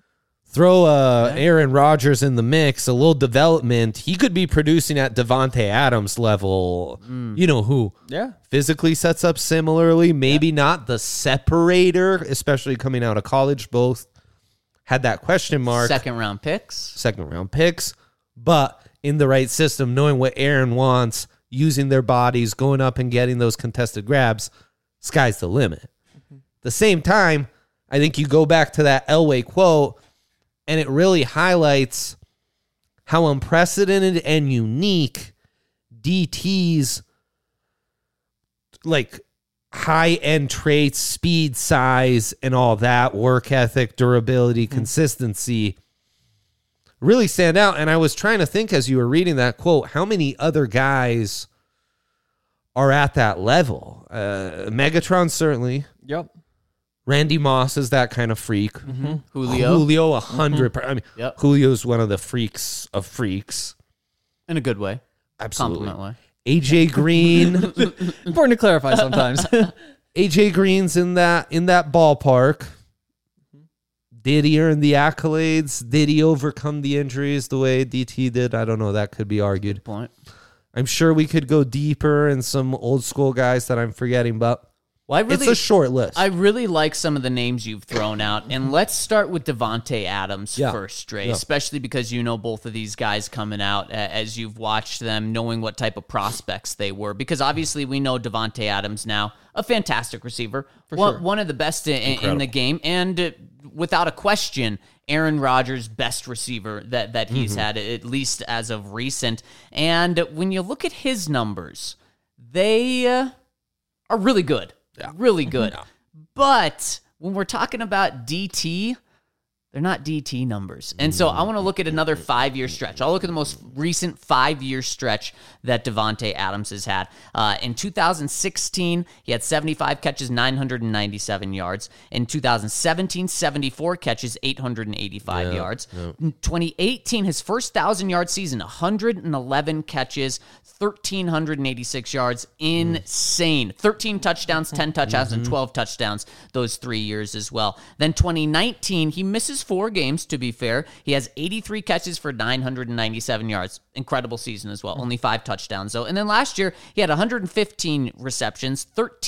Throw Aaron Rodgers in the mix, a little development. He could be producing at Devontae Adams level. You know who? Yeah. Physically sets up similarly. Maybe not the separator, especially coming out of college. Both had that question mark. Second round picks. But in the right system, knowing what Aaron wants, using their bodies, going up and getting those contested grabs, sky's the limit. The same time, I think you go back to that Elway quote, and it really highlights how unprecedented and unique DT's like high-end traits, speed, size, and all that, work ethic, durability, consistency, really stand out. And I was trying to think as you were reading that quote, how many other guys are at that level? Megatron, certainly. Yep. Randy Moss is that kind of freak. Julio. 100. I mean, Yep. Julio's one of the freaks of freaks. In a good way. Absolutely. Compliment way. AJ Green. Important to clarify sometimes. AJ Green's in that ballpark. Did he earn the accolades? Did he overcome the injuries the way DT did? I don't know. That could be argued. Point. I'm sure we could go deeper in some old school guys that I'm forgetting, but Well, it's a short list. I really like some of the names you've thrown out. And let's start with Devontae Adams first, Dre, especially because you know both of these guys coming out as you've watched them, knowing what type of prospects they were. Because obviously we know Devontae Adams now, a fantastic receiver, one of the best in the game, and without a question, Aaron Rodgers' best receiver that he's had, at least as of recent. And when you look at his numbers, they are really good. Really good. But when we're talking about DT, they're not DT numbers. And so I want to look at another 5-year stretch. I'll look at the most recent 5-year stretch that Devontae Adams has had. In 2016, he had 75 catches, 997 yards. In 2017, 74 catches, 885 yards. In 2018, his first 1,000-yard season, 111 catches, 1,386 yards. Insane. 13 touchdowns, 10 touchdowns, and 12 touchdowns those 3 years as well. Then 2019, he misses 4 games, to be fair. He has 83 catches for 997 yards. Incredible season as well. Only 5 touchdowns, though. And then last year, he had 115 receptions,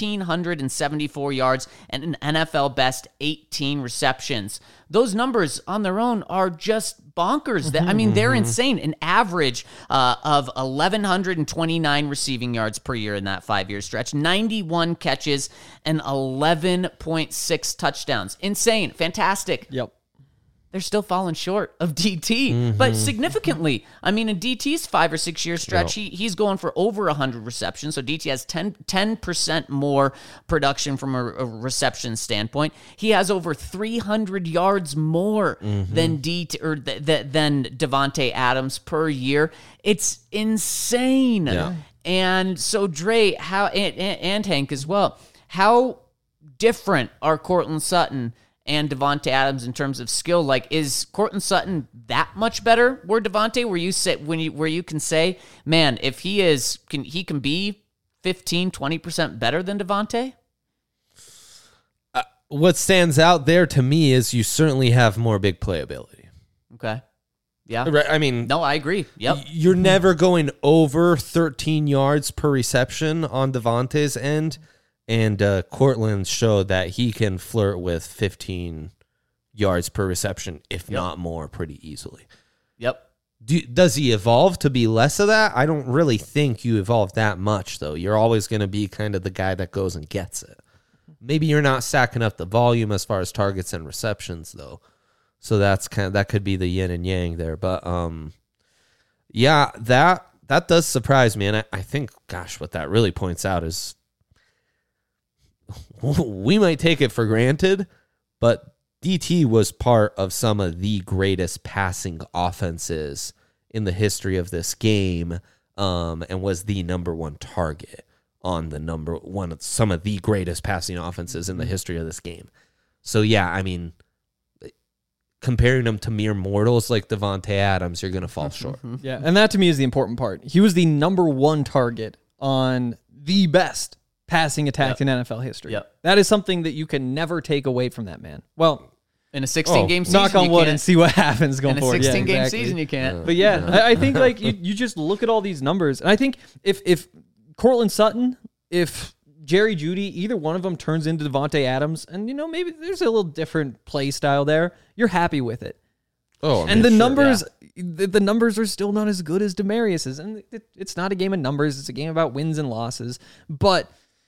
1,374 yards, and an NFL best 18 receptions. Those numbers on their own are just bonkers. I mean, they're insane. An average of 1,129 receiving yards per year in that 5-year stretch, 91 catches, and 11.6 touchdowns. Insane. Fantastic. Yep. They're still falling short of DT, but significantly. I mean, in DT's 5 or 6 year stretch, he's going for over 100 receptions. So DT has 10% more production from a reception standpoint. He has over 300 yards more than than Devontae Adams per year. It's insane. Yeah. And so Dre, and Hank as well, how different are Courtland Sutton and Devontae Adams in terms of skill? Like, is Courtland Sutton that much better? Where Devontae, where you can say, man, if he can be 15-20% better than Devontae? What stands out there to me is you certainly have more big play ability. Okay. Yeah. Right, I mean, no, I agree. Yep. You're never going over 13 yards per reception on Devontae's end. And Courtland showed that he can flirt with 15 yards per reception, if not more, pretty easily. Yep. Does he evolve to be less of that? I don't really think you evolve that much, though. You're always going to be kind of the guy that goes and gets it. Maybe you're not stacking up the volume as far as targets and receptions, though. So that could be the yin and yang there. But yeah, that does surprise me, and I think, gosh, what that really points out is, we might take it for granted, but DT was part of some of the greatest passing offenses in the history of this game, and was the number one target on some of the greatest passing offenses in the history of this game. So yeah, I mean, comparing them to mere mortals like Devontae Adams, you're going to fall short. Yeah, and that to me is the important part. He was the number one target on the best passing attack in NFL history. Yep. That is something that you can never take away from that man. Well, In a 16-game season, knock on you wood can't. and see what happens going In a forward. 16-game exactly. season, you can't. But yeah, I think like you just look at all these numbers, and I think if Cortland Sutton, if Jerry Jeudy, either one of them turns into Devontae Adams, and maybe there's a little different play style there, you're happy with it. Oh, And the numbers, the numbers are still not as good as Demarius's, and it's not a game of numbers; it's a game about wins and losses. But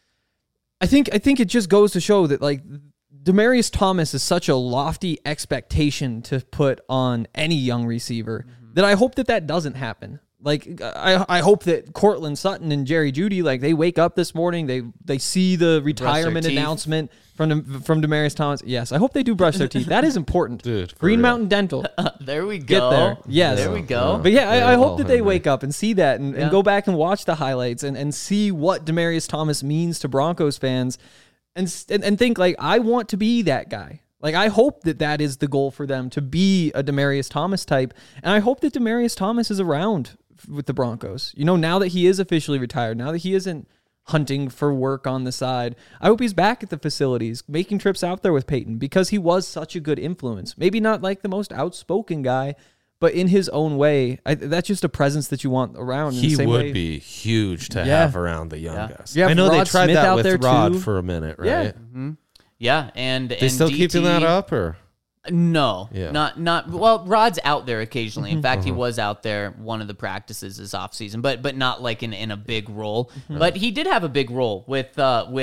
I think it just goes to show that like Demaryius Thomas is such a lofty expectation to put on any young receiver that I hope that doesn't happen. Like I hope that Cortland Sutton and Jerry Jeudy, like they wake up this morning, they see the retirement teeth. announcement from Demaryius Thomas. Yes, I hope they do brush their teeth. That is important. Dude, for Green real. Mountain Dental. There we go. Get there. Yes. There we go. But yeah, I hope that they Henry. wake up and see that and go back and watch the highlights and see what Demaryius Thomas means to Broncos fans and think like, I want to be that guy. Like, I hope that is the goal for them, to be a Demaryius Thomas type. And I hope that Demaryius Thomas is around with the Broncos. Now that he is officially retired, now that he isn't hunting for work on the side, I hope he's back at the facilities, making trips out there with Peyton, because he was such a good influence. Maybe not like the most outspoken guy, but in his own way, that's just a presence that you want around. In the He same would way. be huge to Yeah. have around the young guys. You have I know they Rod tried Smith that out with there, Rod too. for a minute, right? Yeah. Yeah, and They still keeping that up, or No, Yeah. not. Well, Rod's out there occasionally. In fact, he was out there one of the practices this offseason, but not like in a big role. But he did have a big role with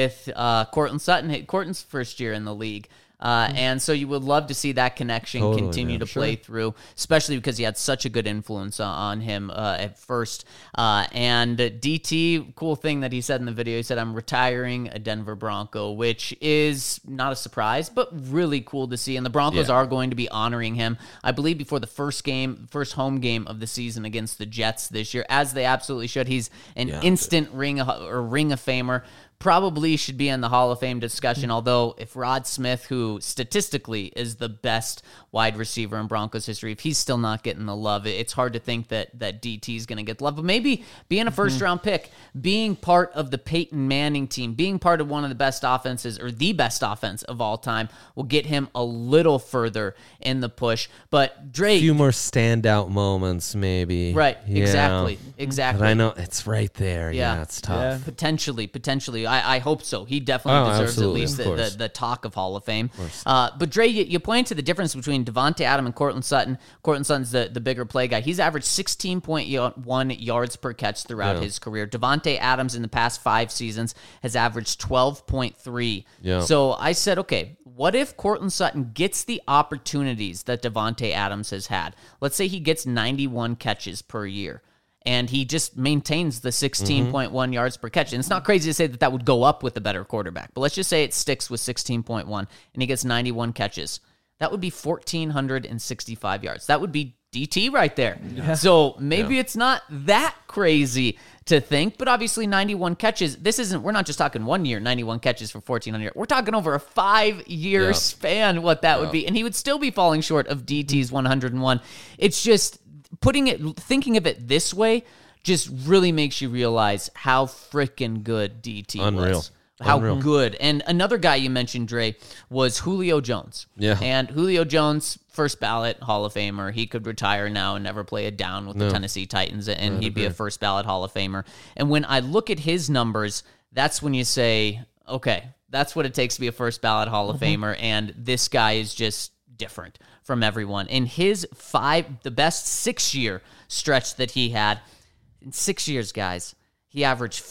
Cortland Sutton. Cortland's first year in the league. And so you would love to see that connection Totally, continue man. to play through, especially because he had such a good influence on him at first. And DT, cool thing that he said in the video, he said, "I'm retiring a Denver Bronco," which is not a surprise, but really cool to see. And the Broncos are going to be honoring him, I believe, before the first home game of the season against the Jets this year, as they absolutely should. He's an instant Ring of Famer. Probably should be in the Hall of Fame discussion, although if Rod Smith, who statistically is the best wide receiver in Broncos history, if he's still not getting the love, it's hard to think that DT is going to get the love. But maybe being a first-round pick, being part of the Peyton Manning team, being part of one of the best offenses, or the best offense of all time, will get him a little further in the push. But Drake... a few more standout moments, maybe. Right, Yeah. exactly. But I know it's right there. Yeah, it's tough. Potentially. I hope so. He definitely deserves at absolutely, least of course. the talk of Hall of Fame. But Dre, you point to the difference between Devontae Adams and Cortland Sutton. Cortland Sutton's the bigger play guy. He's averaged 16.1 yards per catch throughout his career. Devontae Adams in the past 5 seasons has averaged 12.3. Yeah. So I said, okay, what if Cortland Sutton gets the opportunities that Devontae Adams has had? Let's say he gets 91 catches per year, and he just maintains the 16.1 yards per catch. And it's not crazy to say that would go up with a better quarterback, but let's just say it sticks with 16.1 and he gets 91 catches. That would be 1,465 yards. That would be DT right there. Yeah. So maybe it's not that crazy to think, but obviously 91 catches, we're not just talking 1 year, 91 catches for 1,400. We're talking over a 5-year span what that would be. And he would still be falling short of DT's 101. It's just, thinking of it this way just really makes you realize how freaking good DT was. How good. And another guy you mentioned, Dre, was Julio Jones. Yeah. And Julio Jones, first ballot Hall of Famer. He could retire now and never play a down with the Tennessee Titans, and he'd be a first ballot Hall of Famer. And when I look at his numbers, that's when you say, okay, that's what it takes to be a first ballot Hall of Famer, and this guy is just different from everyone. In his the best 6-year stretch that he had, in 6 years, guys, he averaged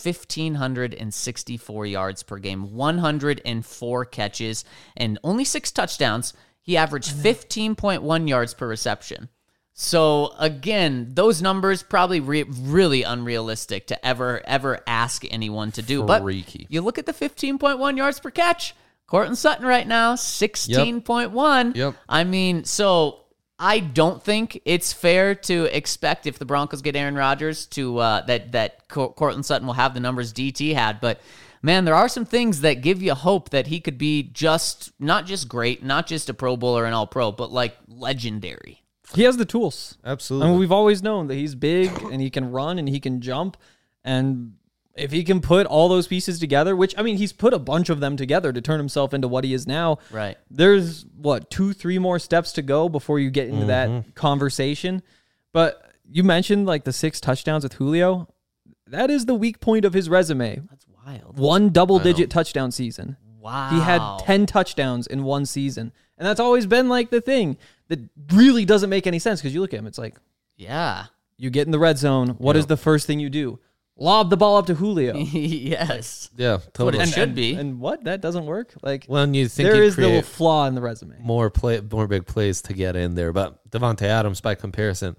1,564 yards per game, 104 catches, and only 6 touchdowns. He averaged 15.1 yards per reception. So, again, those numbers probably really unrealistic to ever ask anyone to do. Freaky. But you look at the 15.1 yards per catch. Cortland Sutton right now, 16.1. Yep. I mean, so I don't think it's fair to expect, if the Broncos get Aaron Rodgers, to that Cortland Sutton will have the numbers DT had. But man, there are some things that give you hope that he could be not just great, not just a Pro Bowler and All-Pro, but like legendary. He has the tools. Absolutely. I mean, we've always known that he's big and he can run and he can jump. And if he can put all those pieces together, which, I mean, he's put a bunch of them together to turn himself into what he is now. Right. There's, 2-3 more steps to go before you get into that conversation. But you mentioned like the 6 touchdowns with Julio. That is the weak point of his resume. That's wild. One double-digit touchdown season. Wow. He had 10 touchdowns in one season. And that's always been like the thing that really doesn't make any sense because you look at him, it's like, Yeah. you get in the red zone. What is the first thing you do? Lob the ball up to Julio. Yes. Yeah, What totally. it should be. And what? That doesn't work? Like, When you think there you is the little create flaw in the resume. more big plays to get in there, but Devontae Adams, by comparison,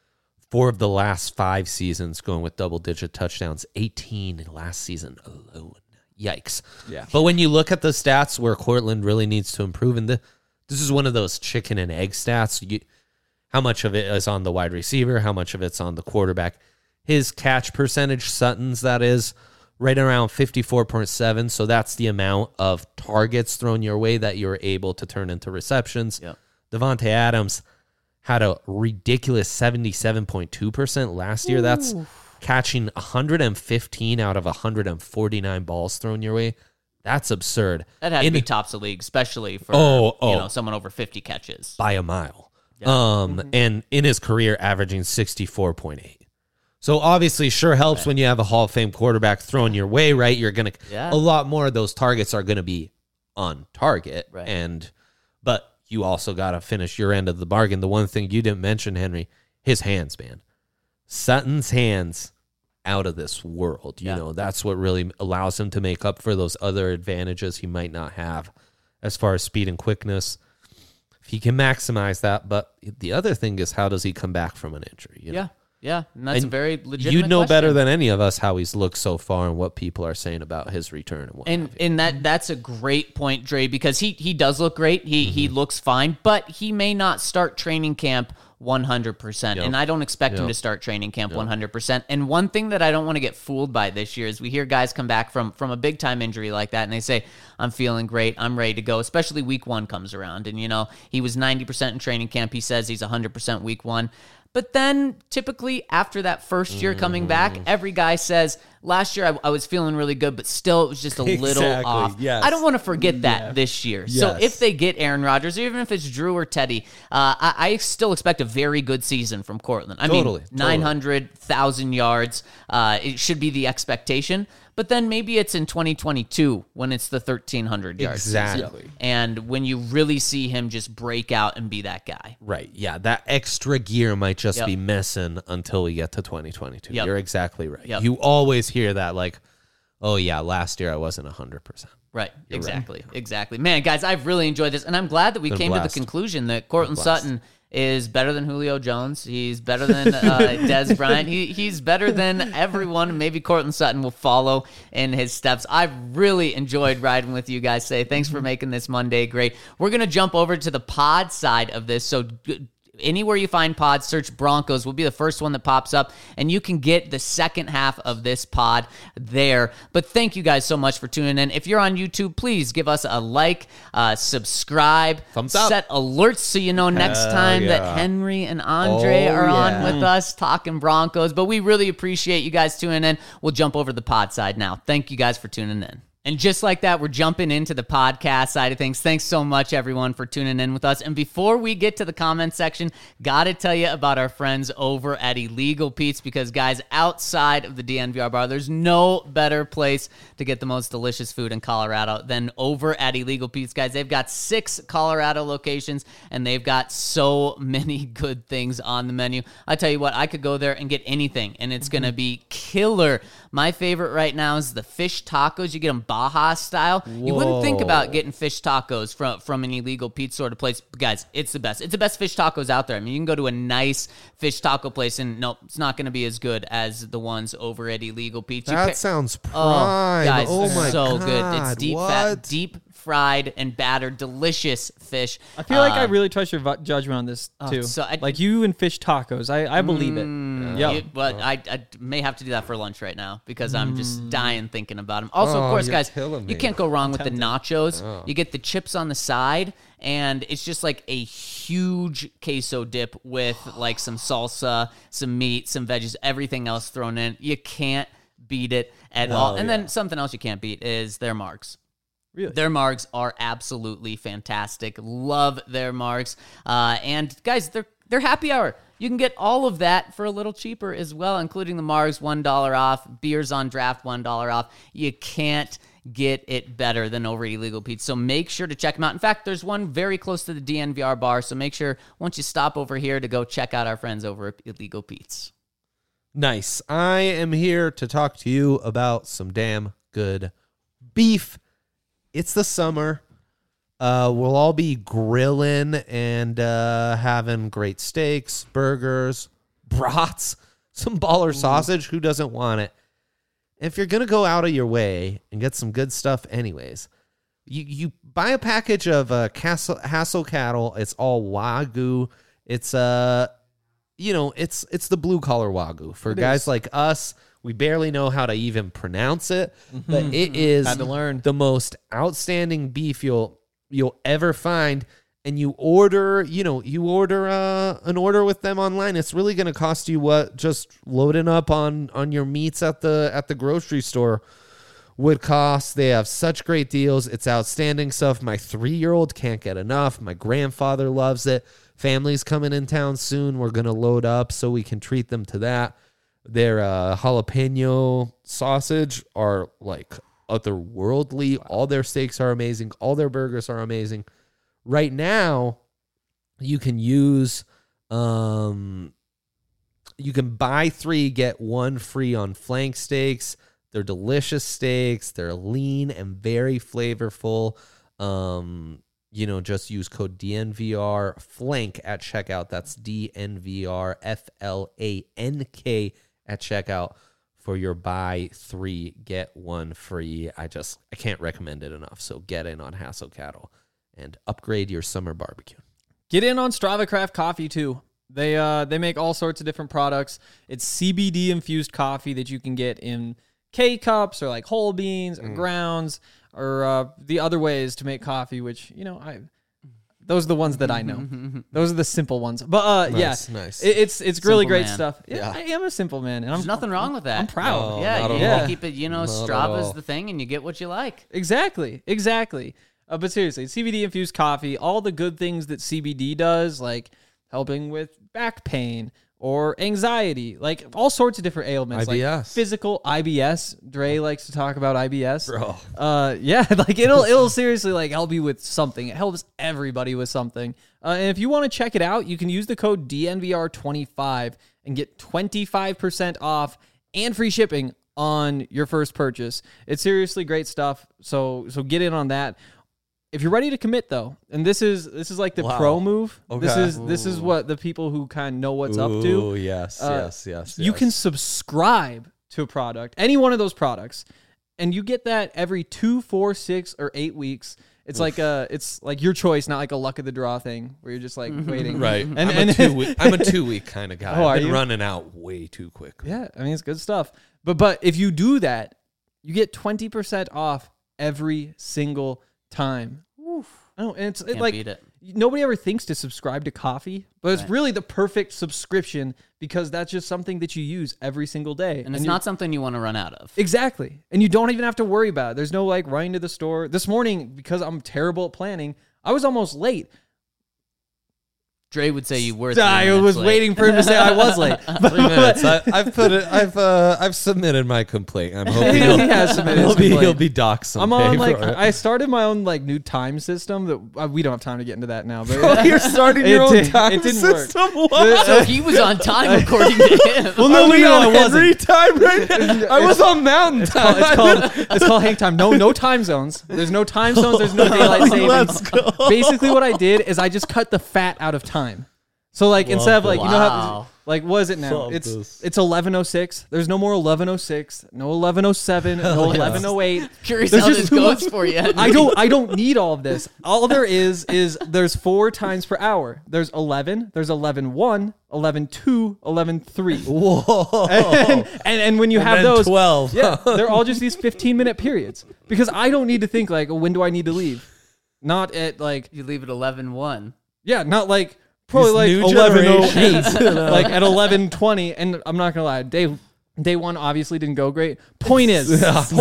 4 of the last 5 seasons going with double-digit touchdowns, 18 in last season alone. Yikes. Yeah. But when you look at the stats where Cortland really needs to improve, and this is one of those chicken and egg stats. How much of it is on the wide receiver? How much of it's on the quarterback? His catch percentage, Sutton's, that is, right around 54.7. So that's the amount of targets thrown your way that you're able to turn into receptions. Yep. Devontae Adams had a ridiculous 77.2% last year. That's catching 115 out of 149 balls thrown your way. That's absurd. That had to be tops of the league, especially for someone over 50 catches. By a mile. And in his career, averaging 64.8. So obviously, sure helps when you have a Hall of Fame quarterback thrown your way, right? You're gonna a lot more of those targets are gonna be on target, right? But you also gotta finish your end of the bargain. The one thing you didn't mention, Henry, his hands, man. Sutton's hands, out of this world. You know, that's what really allows him to make up for those other advantages he might not have as far as speed and quickness. If he can maximize that, but the other thing is, how does he come back from an injury? You know? Yeah, and that's a very legitimate You know question. better than any of us how he's looked so far and what people are saying about his return. And that's a great point, Dre, because he does look great. He looks fine, but he may not start training camp 100%. And I don't expect him to start training camp 100%. And one thing that I don't want to get fooled by this year is we hear guys come back from a big time injury like that and they say, I'm feeling great, I'm ready to go, especially week 1 comes around. And, he was 90% in training camp. He says he's 100% week 1. But then typically after that first year coming back, every guy says, last year I was feeling really good, but still it was just a little off. Yes. I don't want to forget that this year. So if they get Aaron Rodgers, or even if it's Drew or Teddy, I still expect a very good season from Cortland. I mean, 900,000 yards. It should be the expectation. But then maybe it's in 2022 when it's the 1,300 yards. Exactly. And when you really see him just break out and be that guy. Right. Yeah. That extra gear might just be missing until we get to 2022. You're exactly right. You always hear that like, oh, yeah, last year I wasn't 100%. Right. Exactly. Man, guys, I've really enjoyed this. And I'm glad that we came to the conclusion that Cortland Sutton is better than Julio Jones. He's better than Dez Bryant. He's better than everyone. Maybe Cortland Sutton will follow in his steps. I've really enjoyed riding with you guys today. Thanks for making this Monday great. We're going to jump over to the pod side of this. So anywhere you find pods, search Broncos. Will be the first one that pops up, and you can get the second half of this pod there. But thank you guys so much for tuning in. If you're on YouTube, please give us a like, subscribe, thumbs up, set alerts so you know next time that Henry and Andre are on with us talking Broncos. But we really appreciate you guys tuning in. We'll jump over to the pod side now. Thank you guys for tuning in. And just like that, we're jumping into the podcast side of things. Thanks so much, everyone, for tuning in with us. And before we get to the comment section, got to tell you about our friends over at Illegal Pete's, because, guys, outside of the DNVR bar, there's no better place to get the most delicious food in Colorado than over at Illegal Pete's, guys. They've got 6 Colorado locations, and they've got so many good things on the menu. I tell you what, I could go there and get anything, and it's going to be killer. My favorite right now is the fish tacos. You get them Baja style. Whoa. You wouldn't think about getting fish tacos from an Illegal Pete sort of place. But guys, it's the best. It's the best fish tacos out there. I mean, you can go to a nice fish taco place, and nope, it's not going to be as good as the ones over at Illegal Pete. That sounds prime. Oh, guys, my so God. good. It's deep fat, deep fried and battered, delicious fish. I feel like I really trust your judgment on this too. Like you and fish tacos, I believe it. Yeah, but I may have to do that for lunch right now because I'm just dying thinking about them. Also, of course, guys, you can't go wrong with the nachos. You get the chips on the side, and it's just like a huge queso dip with like some salsa, some meat, some veggies, everything else thrown in. You can't beat it at all. And then something else you can't beat is their margs. Really? Their margs are absolutely fantastic. Love their margs. And guys, they're happy hour. You can get all of that for a little cheaper as well, including the margs, $1 off, beers on draft, $1 off. You can't get it better than over at Illegal Pete's. So make sure to check them out. In fact, there's one very close to the DNVR bar. So make sure once you stop over here to go check out our friends over at Illegal Pete's. Nice. I am here to talk to you about some damn good beef. It's the summer. We'll all be grilling and having great steaks, burgers, brats, some baller sausage. Who doesn't want it? If you're going to go out of your way and get some good stuff anyways, you buy a package of Hassel cattle. It's all Wagyu. It's it's the blue collar Wagyu. For guys like us, we barely know how to even pronounce it, but it is Had to learn. the most outstanding beef you'll ever find. And you order an order with them online. It's really going to cost you what just loading up on your meats at the grocery store would cost. They have such great deals. It's outstanding stuff. My 3-year-old can't get enough. My grandfather loves it. Family's coming in town soon. We're going to load up so we can treat them to that. Their jalapeno sausage are like otherworldly. All their steaks are amazing. All their burgers are amazing. Right now, you can use, you can buy 3, get 1 free on flank steaks. They're delicious steaks. They're lean and very flavorful. Just use code DNVR flank at checkout. That's DNVR FLANK at checkout for your buy 3, get 1 free. I can't recommend it enough. So get in on Hassel Cattle and upgrade your summer barbecue. Get in on Strava Craft Coffee too. They make all sorts of different products. It's CBD infused coffee that you can get in K-cups or like whole beans or grounds or the other ways to make coffee, which, those are the ones that I know. Those are the simple ones. But Nice. it's really Simple great man. stuff. Yeah, I am a simple man. And There's nothing wrong with that. I'm proud. No, Yeah, not you at gotta all. keep it, Not at Strava's all. the thing and you get what you like. Exactly. But seriously, CBD infused coffee, all the good things that CBD does, like helping with back pain or anxiety, like all sorts of different ailments, like IBS. physical IBS. Dre likes to talk about IBS. Bro. Like it'll seriously like help you with something. It helps everybody with something. And if you want to check it out, you can use the code DNVR25 and get 25% off and free shipping on your first purchase. It's seriously great stuff. So get in on that. If you're ready to commit though, and this is like the pro move. Okay. This is what the people who kind of know what's up to. Yes. You can subscribe to a product, any one of those products, and you get that every 2, 4, 6, or 8 weeks. It's it's like your choice, not like a luck of the draw thing where you're just like waiting. Right. And I'm a 2-week kind of guy. Oh, I've are been you? running out way too quickly. Yeah, I mean it's good stuff. But if you do that, you get 20% off every single time. Oh, and it's Can't like beat it. nobody ever thinks to subscribe to coffee, but it's Right. really the perfect subscription because that's just something that you use every single day. And it's not something you want to run out of. Exactly. And you don't even have to worry about it. There's no like running to the store. This morning, because I'm terrible at planning, I was almost late. Dre would say you were 3 I minutes was late. waiting for him to say I was late. 3 minutes. I've submitted my complaint. I'm hoping He has submitted his complaint. he'll be docked someday. I'm on like for it. I started my own like new time system that we don't have time to get into that now. But You're starting your own time it didn't work. system. What? So he was on time according to him. Well, no, I wasn't. Henry time right now. I was on Mountain time. It's called hang time. No time zones. There's no time zones. There's no daylight savings. Let's go. Basically, what I did is I just cut the fat out of time. So like instead of like you know how Wow. like what is it now? Love It's this. 11:06. There's no more 11:06. No 11:07. No 11:08. Curious There's how just this too goes much- for you. I don't need all of this. All there is there's 4 times per hour. There's 11. There's 11:1, 11:2, 11:3. Whoa. And when you have then those 12. yeah, they're all just these 15-minute periods because I don't need to think like, oh, when do I need to leave? Not at like You leave at 11:1. yeah, not like probably like new 11:08, generations. like at 11:20. And I'm not gonna lie, Dave Day one obviously didn't go great. Point is,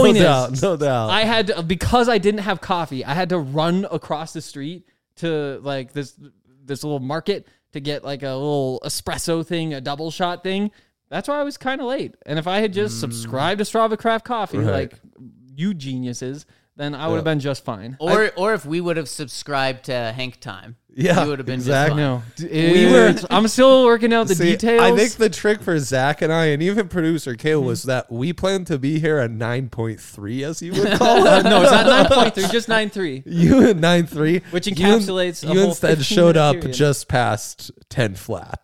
no doubt. I had to, because I didn't have coffee, I had to run across the street to like this little market to get like a little espresso thing, a double shot thing. That's why I was kind of late. And if I had just subscribed to Strava Craft Coffee, like you geniuses, then I would have been just fine. Or if we would have subscribed to Hank Time, Yeah, we would have been exactly. just fine. I'm still working out the details. I think the trick for Zach and I, and even producer Kale, was that we planned to be here at 9.3, as you would call it. no, it's not 9.3, just 9.3. You at 9.3, Which encapsulates You a whole instead showed 15-minute up period. just past 10 flat.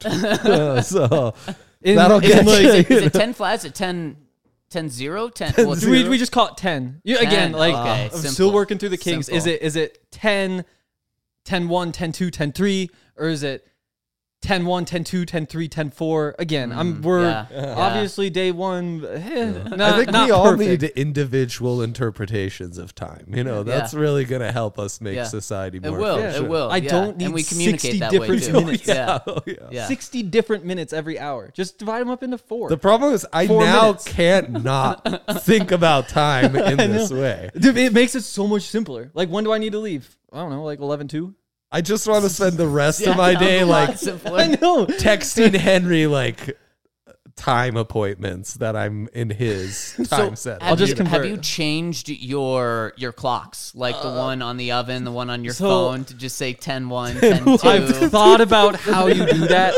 So In- that'll in get like- you. Is it 10 flat? Is it 10 0? 10 well, we just call it 10. Again, 10, like okay, I'm simple. still working through the kinks. Simple. Is it 10, 10-1, 10-2, 10-3, or is it 10-1, 10-2, 10-3, 10-4? Again, we're yeah. obviously day one. I think we all need individual interpretations of time. You know, that's really going to help us make Yeah. society It more will. efficient. It will. I yeah. don't need and we 60 communicate that way different too. minutes. Yeah. Oh, yeah. Yeah. 60 different minutes every hour. Just divide them up into 4. The problem is I 4 now minutes. can't not think about time in this way. Dude, it makes it so much simpler. Like, when do I need to leave? I don't know, like 11:02? I just want to spend the rest of Yeah, my sounds day a lot like simpler. I know. texting Henry like time appointments that I'm in his time set. I'll just have convert. you changed your clocks, like the one on the oven, the one on your so- phone, to just say 10-1, 10-2? I've thought about how you do that.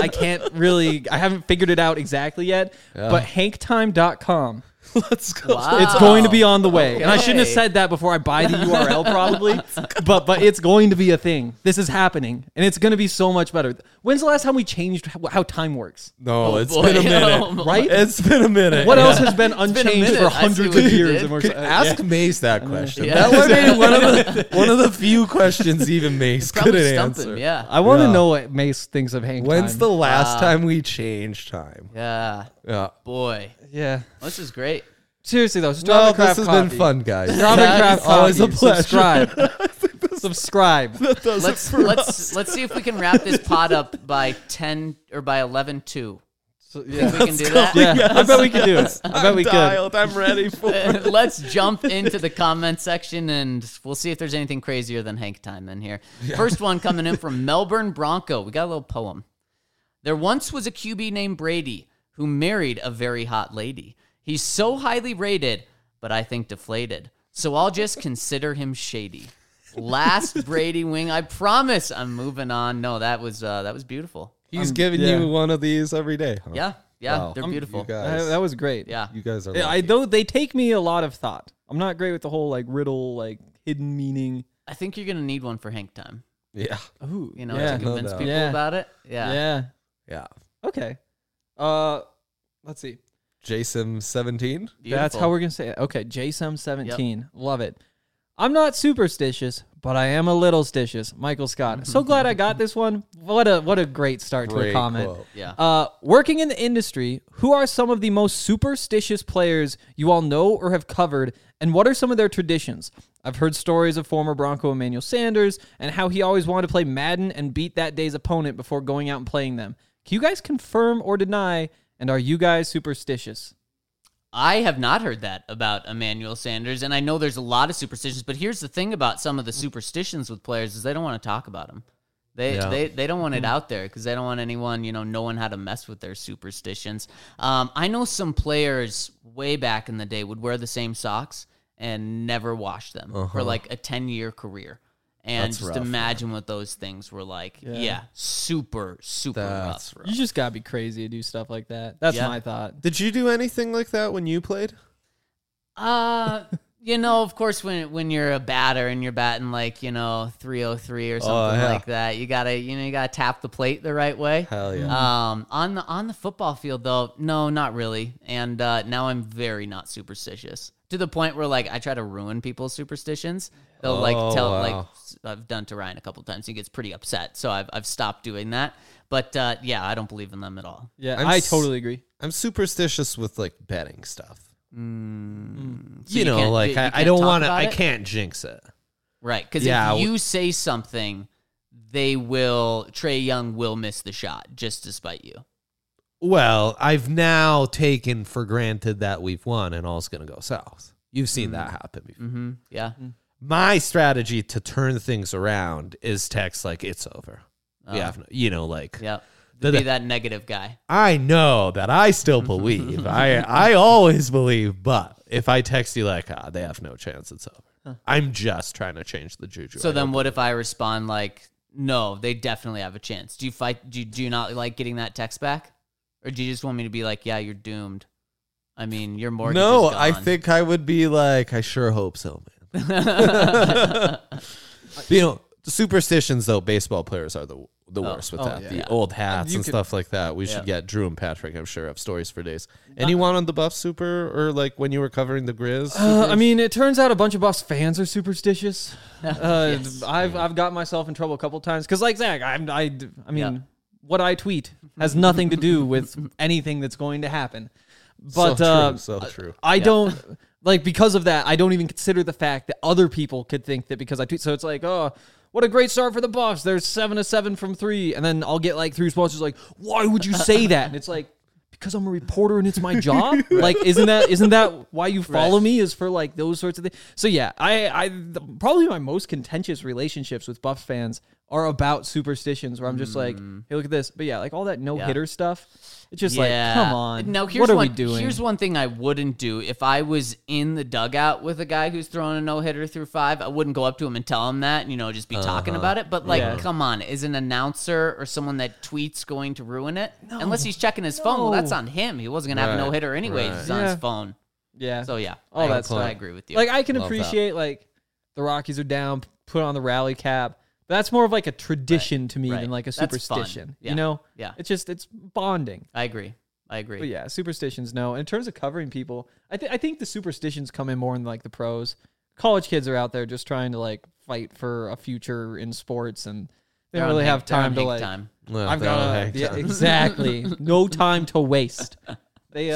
I haven't figured it out exactly yet, but hanktime.com. Let's go. Wow. It's going to be on the way. And I shouldn't have Okay. said that before I buy the URL probably, but it's going to be a thing. This is happening, and it's going to be so much better. When's the last time we changed how time works? No, it's boy. been a minute. Oh, my. Right? It's been a minute. What Yeah. else has been been a unchanged minute. for I see hundreds what of you years? did. And we're, Could ask Mace that question. Yeah. That would be one of the few questions even Mace Probably couldn't stump answer. him, yeah. I want to Yeah. know what Mace thinks of Hank When's time. the last time we changed time? Yeah. Yeah. Boy. Yeah. This is great. Seriously though, No, Strava this Craft has Coffee. been fun, guys. Strava Craft Coffee. Always a pleasure. Subscribe. Let's see if we can wrap this pod up by 10 or by 11-2. So, yeah. We can do that. Yeah, I bet we could do it. I bet we could. Dialed. I'm ready for it. Let's jump into the comment section and we'll see if there's anything crazier than Hank time in here. First one coming in from Melbourne Bronco. We got a little poem. There once was a QB named Brady who married a very hot lady. He's so highly rated, but I think deflated. So I'll just consider him shady. Last Brady wing. I promise I'm moving on. No, that was beautiful. He's giving yeah. you one of these every day. Huh? Yeah. Wow. They're beautiful. You guys, That was great. Yeah. you guys are Though they take me a lot of thought. I'm not great with the whole like riddle, like hidden meaning. I think you're going to need one for Hank time. Yeah. Ooh, You know, yeah. to convince doubt. people Yeah. about it. Yeah. Yeah. Yeah. Okay. Let's see. Jason 17. That's how we're gonna say it. Okay, JSM17. Love it. I'm not superstitious, but I am a little stitious. Michael Scott. So glad I got this one. What a great start to a Great comment. quote. Yeah. Working in the industry, who are some of the most superstitious players you all know or have covered, and what are some of their traditions? I've heard stories of former Bronco Emmanuel Sanders and how he always wanted to play Madden and beat that day's opponent before going out and playing them. Can you guys confirm or deny, and are you guys superstitious? I have not heard that about Emmanuel Sanders, and I know there's a lot of superstitions, but here's the thing about some of the superstitions with players is they don't want to talk about them. They don't want it out there because they don't want anyone, knowing how to mess with their superstitions. I know some players way back in the day would wear the same socks and never wash them for like a 10-year career. And That's just rough, imagine what those things were like. Yeah, super, super That's rough. rough. You just gotta be crazy to do stuff like that. That's Yeah. my thought. Did you do anything like that when you played? Of course, when you're a batter and you're batting like 303 or something yeah. like that, you gotta tap the plate the right way. Hell yeah. On the football field though, no, not really. And now I'm very not superstitious to the point where like I try to ruin people's superstitions. They'll tell wow. I've done to Ryan a couple times. He gets pretty upset, so I've stopped doing that. But yeah, I don't believe in them at all. Yeah, I'm I s- totally agree. I'm superstitious with like betting stuff. So You know, can't- like you I can't don't talk want to. about I it? can't jinx it. Right, because Yeah, if you say something, Trey Young will miss the shot just to spite you. Well, I've now taken for granted that we've won and all's going to go south. You've seen that happen before. Mm-hmm. Yeah. My strategy to turn things around is text like it's over. We have, like Yeah. The- Be that negative guy. I know that I still believe. I always believe, but if I text you like, they have no chance, it's over. I'm just trying to change the juju. So then what if I respond like, no, they definitely have a chance? Do you fight? Do you not like getting that text back? Or do you just want me to be like, yeah, you're doomed? I mean, your mortgage No, is gone. I think I would be like, I sure hope so, man. The superstitions, though, baseball players are the worst with that. yeah. The old hats and stuff like that. We should get Drew and Patrick, I'm sure, have stories for days. Anyone on the Buff Super or like when you were covering the Grizz? I mean, it turns out a bunch of Buffs fans are superstitious. I've got myself in trouble a couple times because, like Zach, I mean, what I tweet has nothing to do with anything that's going to happen. But so true. I don't like because of that. I don't even consider the fact that other people could think that because I tweet. So it's like, oh, what a great start for the Buffs. There's 7 of 7 from 3, and then I'll get like 3 responses like, why would you say that? And it's like, because I'm a reporter and it's my job. Like, isn't that why you follow me? Is for like those sorts of things. So yeah, I probably my most contentious relationships with Buffs fans are about superstitions where I'm just like, hey, look at this. But yeah, like all that no-hitter stuff. It's just like, come on. No, what are we doing? Here's one thing I wouldn't do. If I was in the dugout with a guy who's throwing a no-hitter through 5, I wouldn't go up to him and tell him that, just be talking about it. But, like, come on. Is an announcer or someone that tweets going to ruin it? No. Unless he's checking his phone. Well, that's on him. He wasn't going to have a no-hitter anyways. He's on his phone. Yeah. So, yeah. All that stuff. I agree with you. Like, I can appreciate, like, the Rockies are down, put on the rally cap. But that's more of like a tradition to me than like a superstition. Yeah. Yeah. It's bonding. I agree. But yeah, superstitions, no. In terms of covering people, I think the superstitions come in more in like the pros. College kids are out there just trying to like fight for a future in sports, and they don't really have time to like. Well, I've got exactly no time to waste. They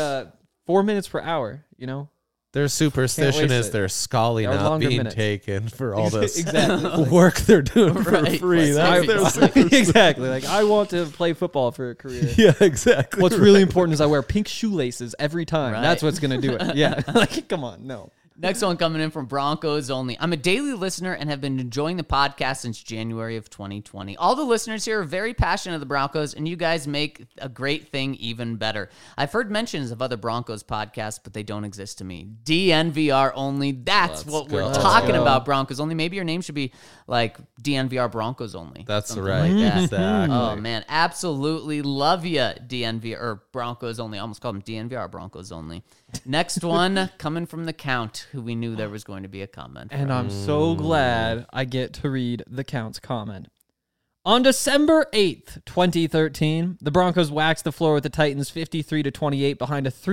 4 minutes per hour, Their superstition waste is it. their Scully Or not longer being minutes. taken for all this Exactly. work they're doing for Right. free. That's their Exactly. Like I want to play football for a career. Yeah, exactly. What's really important is I wear pink shoelaces every time. Right. That's what's gonna do it. Yeah. Like, come on, no. Next one coming in from Broncos Only. I'm a daily listener and have been enjoying the podcast since January of 2020. All the listeners here are very passionate of the Broncos, and you guys make a great thing even better. I've heard mentions of other Broncos podcasts, but they don't exist to me. DNVR Only. That's what we're talking about, Broncos Only. Maybe your name should be like DNVR Broncos Only. That's Something right. like that. Exactly. Oh, man. Absolutely love you, DNVR, or Broncos Only. I almost called them DNVR Broncos Only. Next one coming from the Count, who we knew there was going to be a comment. And I'm so glad I get to read the Count's comment. On December 8th, 2013, the Broncos waxed the floor with the Titans 53-28 behind a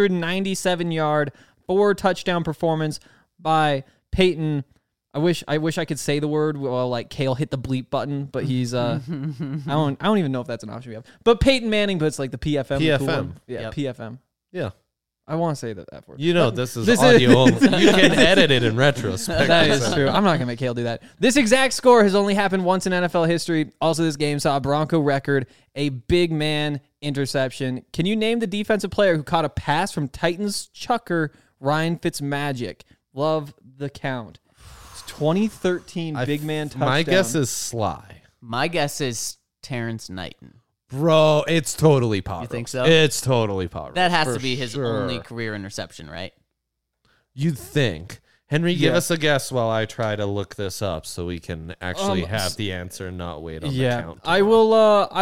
397-yard, 4-touchdown performance by Peyton. I wish I could say the word. Well, like Kale hit the bleep button, but he's I don't even know if that's an option we have. But Peyton Manning, but it's like the PFM. the cool one. Yeah, Yep. PFM. Yeah. I want to say that word. This is audio only. You can edit it in retrospect. That is true. I'm not going to make Kale do that. This exact score has only happened once in NFL history. Also, this game saw a Bronco record, a big man interception. Can you name the defensive player who caught a pass from Titans chucker Ryan Fitzmagic? Love the Count. It's 2013 big man touchdown. My guess is Sly. My guess is Terrence Knighton. Bro, it's totally Potter. You think so? It's totally Potter. That has to be his only career interception, right? You'd think. Henry, give us a guess while I try to look this up so we can actually have the answer and not wait on the count. I will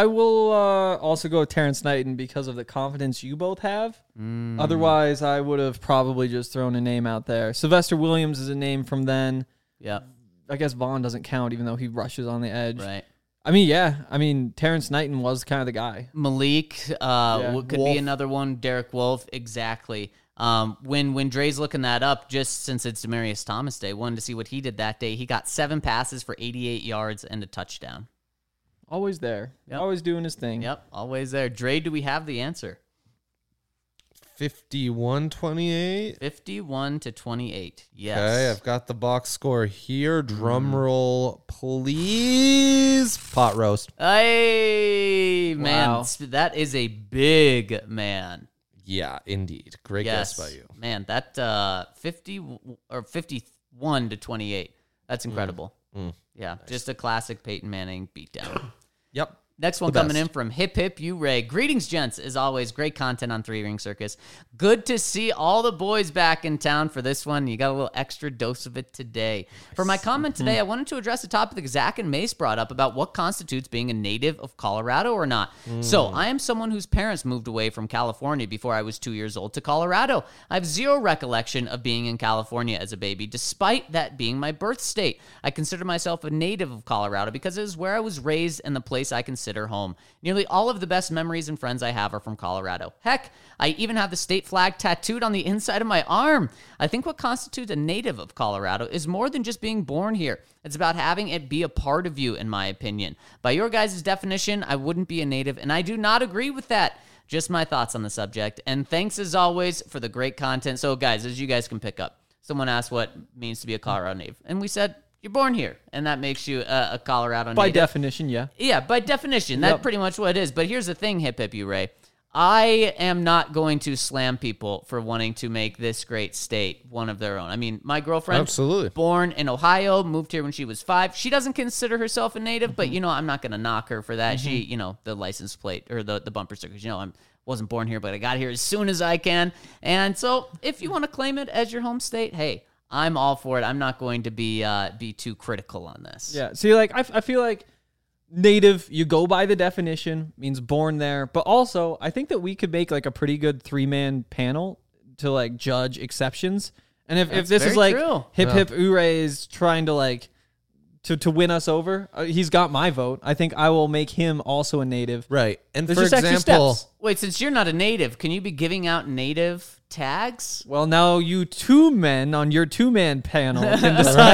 also go with Terrence Knighton because of the confidence you both have. Otherwise, I would have probably just thrown a name out there. Sylvester Williams is a name from then. Yeah. I guess Vaughn doesn't count even though he rushes on the edge. Right. I mean, yeah. I mean, Terrence Knighton was kind of the guy. Malik could Wolf. be another one. Derek Wolf, exactly. When Dre's looking that up, just since it's Demaryius Thomas Day, wanted to see what he did that day. He got 7 passes for 88 yards and a touchdown. Always there. Yep. Always doing his thing. Yep, always there. Dre, do we have the answer? 51-28. 51-28. Yes. Okay, I've got the box score here. Drum roll, please. Pot roast. Hey, man. Wow. That is a big man. Yeah, indeed. Great Yes. guess by you. Man, that 51-28. That's incredible. Yeah, just a classic Peyton Manning beatdown. Yep. Next one The coming best. in from Hip Hip You Ray. Greetings, gents. As always, great content on Three Ring Circus. Good to see all the boys back in town for this one. You got a little extra dose of it today. For my comment today, I wanted to address a topic that Zach and Mace brought up about what constitutes being a native of Colorado or not. So, I am someone whose parents moved away from California before I was 2 years old to Colorado. I have zero recollection of being in California as a baby, despite that being my birth state. I consider myself a native of Colorado because it is where I was raised and the place I consider home. Nearly all of the best memories and friends I have are from Colorado. Heck, I even have the state flag tattooed on the inside of my arm. I think what constitutes a native of Colorado is more than just being born here. It's about having it be a part of you, in my opinion. By your guys' definition, I wouldn't be a native, and I do not agree with that. Just my thoughts on the subject. And thanks as always for the great content. So guys, as you guys can pick up, someone asked what it means to be a Colorado native. And we said, you're born here, and that makes you a Colorado native. By definition, yeah. Yeah, by definition, that's pretty much what it is. But here's the thing, Hip Hip You Ray. I am not going to slam people for wanting to make this great state one of their own. I mean, my girlfriend, Absolutely. born in Ohio, moved here when she was 5. She doesn't consider herself a native, but, I'm not going to knock her for that. She, the license plate or the bumper stickers, I wasn't born here, but I got here as soon as I can. And so if you want to claim it as your home state, hey, I'm all for it. I'm not going to be too critical on this. Yeah. See, like, I feel like native, you go by the definition, means born there. But also, I think that we could make like a pretty good 3-man panel to like judge exceptions. And if this very is like true. Hip Hip Ure is trying to like to win us over, he's got my vote. I think I will make him also a native. Right. And There's for just extra example, steps. Wait, since you're not a native, can you be giving out native tags? Well, now you 2 men on your 2-man panel can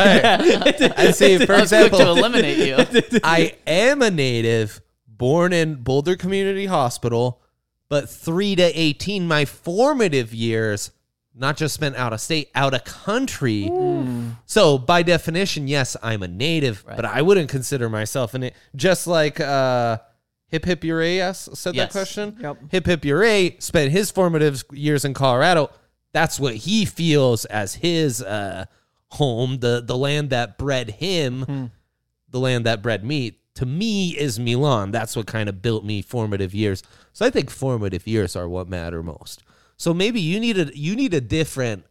decide. I see, for I was quick to example, eliminate you. I am a native born in Boulder Community Hospital, but 3 to 18, my formative years, not just spent out of state, out of country. So by definition, yes, I'm a native, but I wouldn't consider myself a native. Just like Hip Hip Ure said that Yes. question. Yep. Hip Hip Ure spent his formative years in Colorado. That's what he feels as his home, the land that bred him, the land that bred me. To me is Milan. That's what kind of built me formative years. So I think formative years are what matter most. So maybe you need a different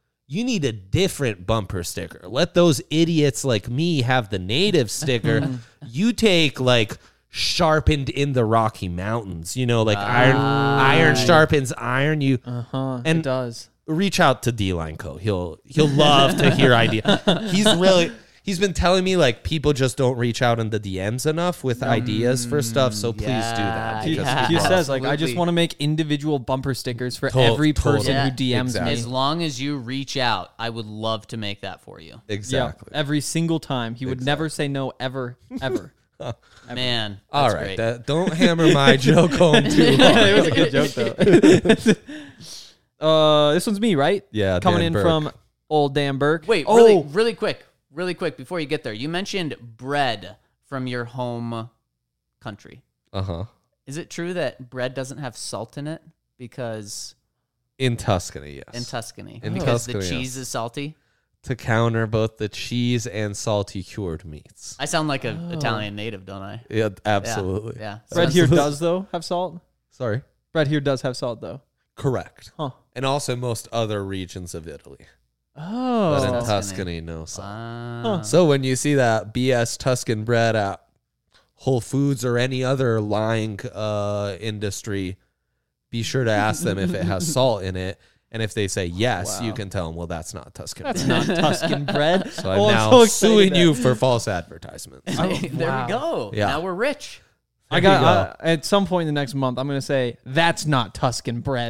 bumper sticker. Let those idiots like me have the native sticker. You take like sharpened in the Rocky Mountains, like iron sharpens iron. You And And- it does. reach out to D-Line Co. He'll love to hear idea. He's been telling me like people just don't reach out in the DMs enough with ideas for stuff. So please do that. Yeah, because yeah. He people- says, like, I just Absolutely. want to make individual bumper stickers for Totally. every person Yeah. who DMs Exactly. As me. long as you reach out, I would love to make that for you. Exactly. Yeah, every single time. He would never say no, ever, ever. Man, All that's right, great. don't hammer my joke home too hard. It was a good joke, though. This one's me, right? Yeah, Coming Dan in Burke. from old Dan Burke. Wait, really quick before you get there. You mentioned bread from your home country. Uh-huh. Is it true that bread doesn't have salt in it because In Tuscany, yes. in Tuscany In because Tuscany, the cheese yes. is salty? To counter both the cheese and salty cured meats. I sound like an Italian native, don't I? Yeah, absolutely. Yeah. Bread here does, though, have salt? Sorry. Bread here does have salt, though. Correct. Huh. And also most other regions of Italy. Oh. But in Tuscany. Tuscany, no salt. Ah. So when you see that BS Tuscan bread at Whole Foods or any other lying industry, be sure to ask them if it has salt in it. And if they say yes, you can tell them, well, that's not Tuscan That's bread. not Tuscan bread. So I'm Oh, now so excited suing that- you for false advertisements. there wow. we go. Yeah. Now we're rich. I There you got at some point in the next month, I'm going to say, that's not Tuscan bread.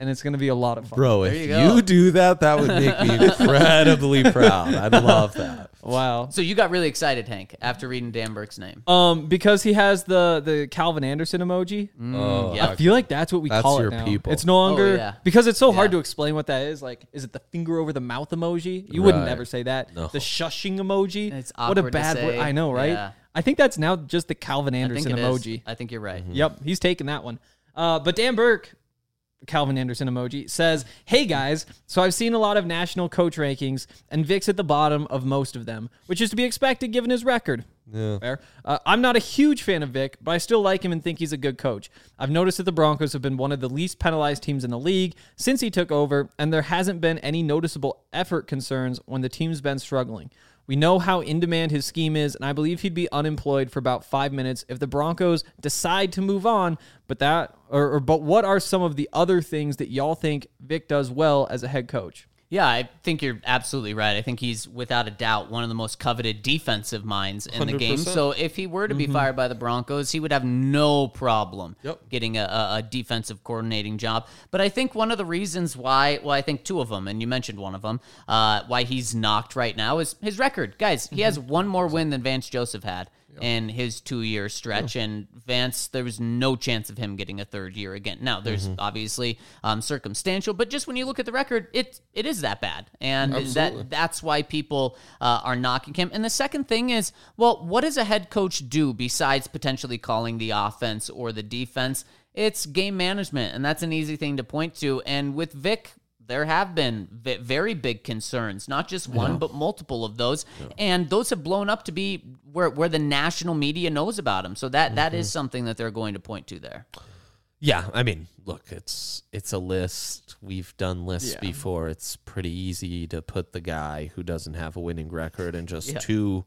and it's going to be a lot of fun. Bro, There if you go. you do that, that would make me incredibly proud. I'd love that. Wow. So you got really excited, Hank, after reading Dan Burke's name. Because he has the Calvin Anderson emoji. Oh, yeah. I feel like that's what we That's call your it now. people. It's no longer yeah. because it's so hard Yeah. to explain what that is. Like, is it the finger over the mouth emoji? You wouldn't Right. ever say that. No. The shushing emoji. It's what a awkward to bad word. say. I know, right? Yeah. I think that's now just the Calvin I think Anderson it is. emoji. I think you're right. Yep, he's taking that one. But Dan Burke, Calvin Anderson emoji, says, "Hey guys, so I've seen a lot of national coach rankings, and Vic's at the bottom of most of them, which is to be expected given his record. Yeah. Fair. I'm not a huge fan of Vic, but I still like him and think he's a good coach. I've noticed that the Broncos have been one of the least penalized teams in the league since he took over, and there hasn't been any noticeable effort concerns when the team's been struggling. We know how in demand his scheme is, and I believe he'd be unemployed for about 5 minutes if the Broncos decide to move on. But what are some of the other things that y'all think Vic does well as a head coach?" Yeah, I think you're absolutely right. I think he's, without a doubt, one of the most coveted defensive minds in the game. 100%. So if he were to be fired by the Broncos, he would have no problem Yep. getting a defensive coordinating job. But I think one of the reasons why, well, I think two of them, and you mentioned one of them, why he's knocked right now is his record. Guys, he has one more win than Vance Joseph had in his 2-year stretch, and Vance, there was no chance of him getting a third year again. Now, there's obviously circumstantial, but just when you look at the record, it is that bad, and that's why people are knocking him. And the second thing is, well, what does a head coach do besides potentially calling the offense or the defense? It's game management, and that's an easy thing to point to. And with Vic, there have been very big concerns, not just one, but multiple of those. And those have blown up to be where the national media knows about him. So that is something that they're going to point to there. Yeah, I mean, look, it's a list. We've done lists before. It's pretty easy to put the guy who doesn't have a winning record and just two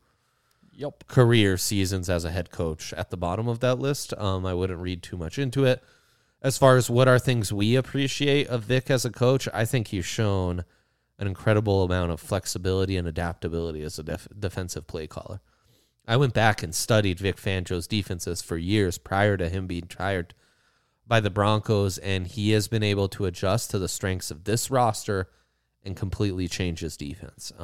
career seasons as a head coach at the bottom of that list. I wouldn't read too much into it. As far as what are things we appreciate of Vic as a coach, I think he's shown an incredible amount of flexibility and adaptability as a defensive play caller. I went back and studied Vic Fangio's defenses for years prior to him being hired by the Broncos, and he has been able to adjust to the strengths of this roster and completely change his defense.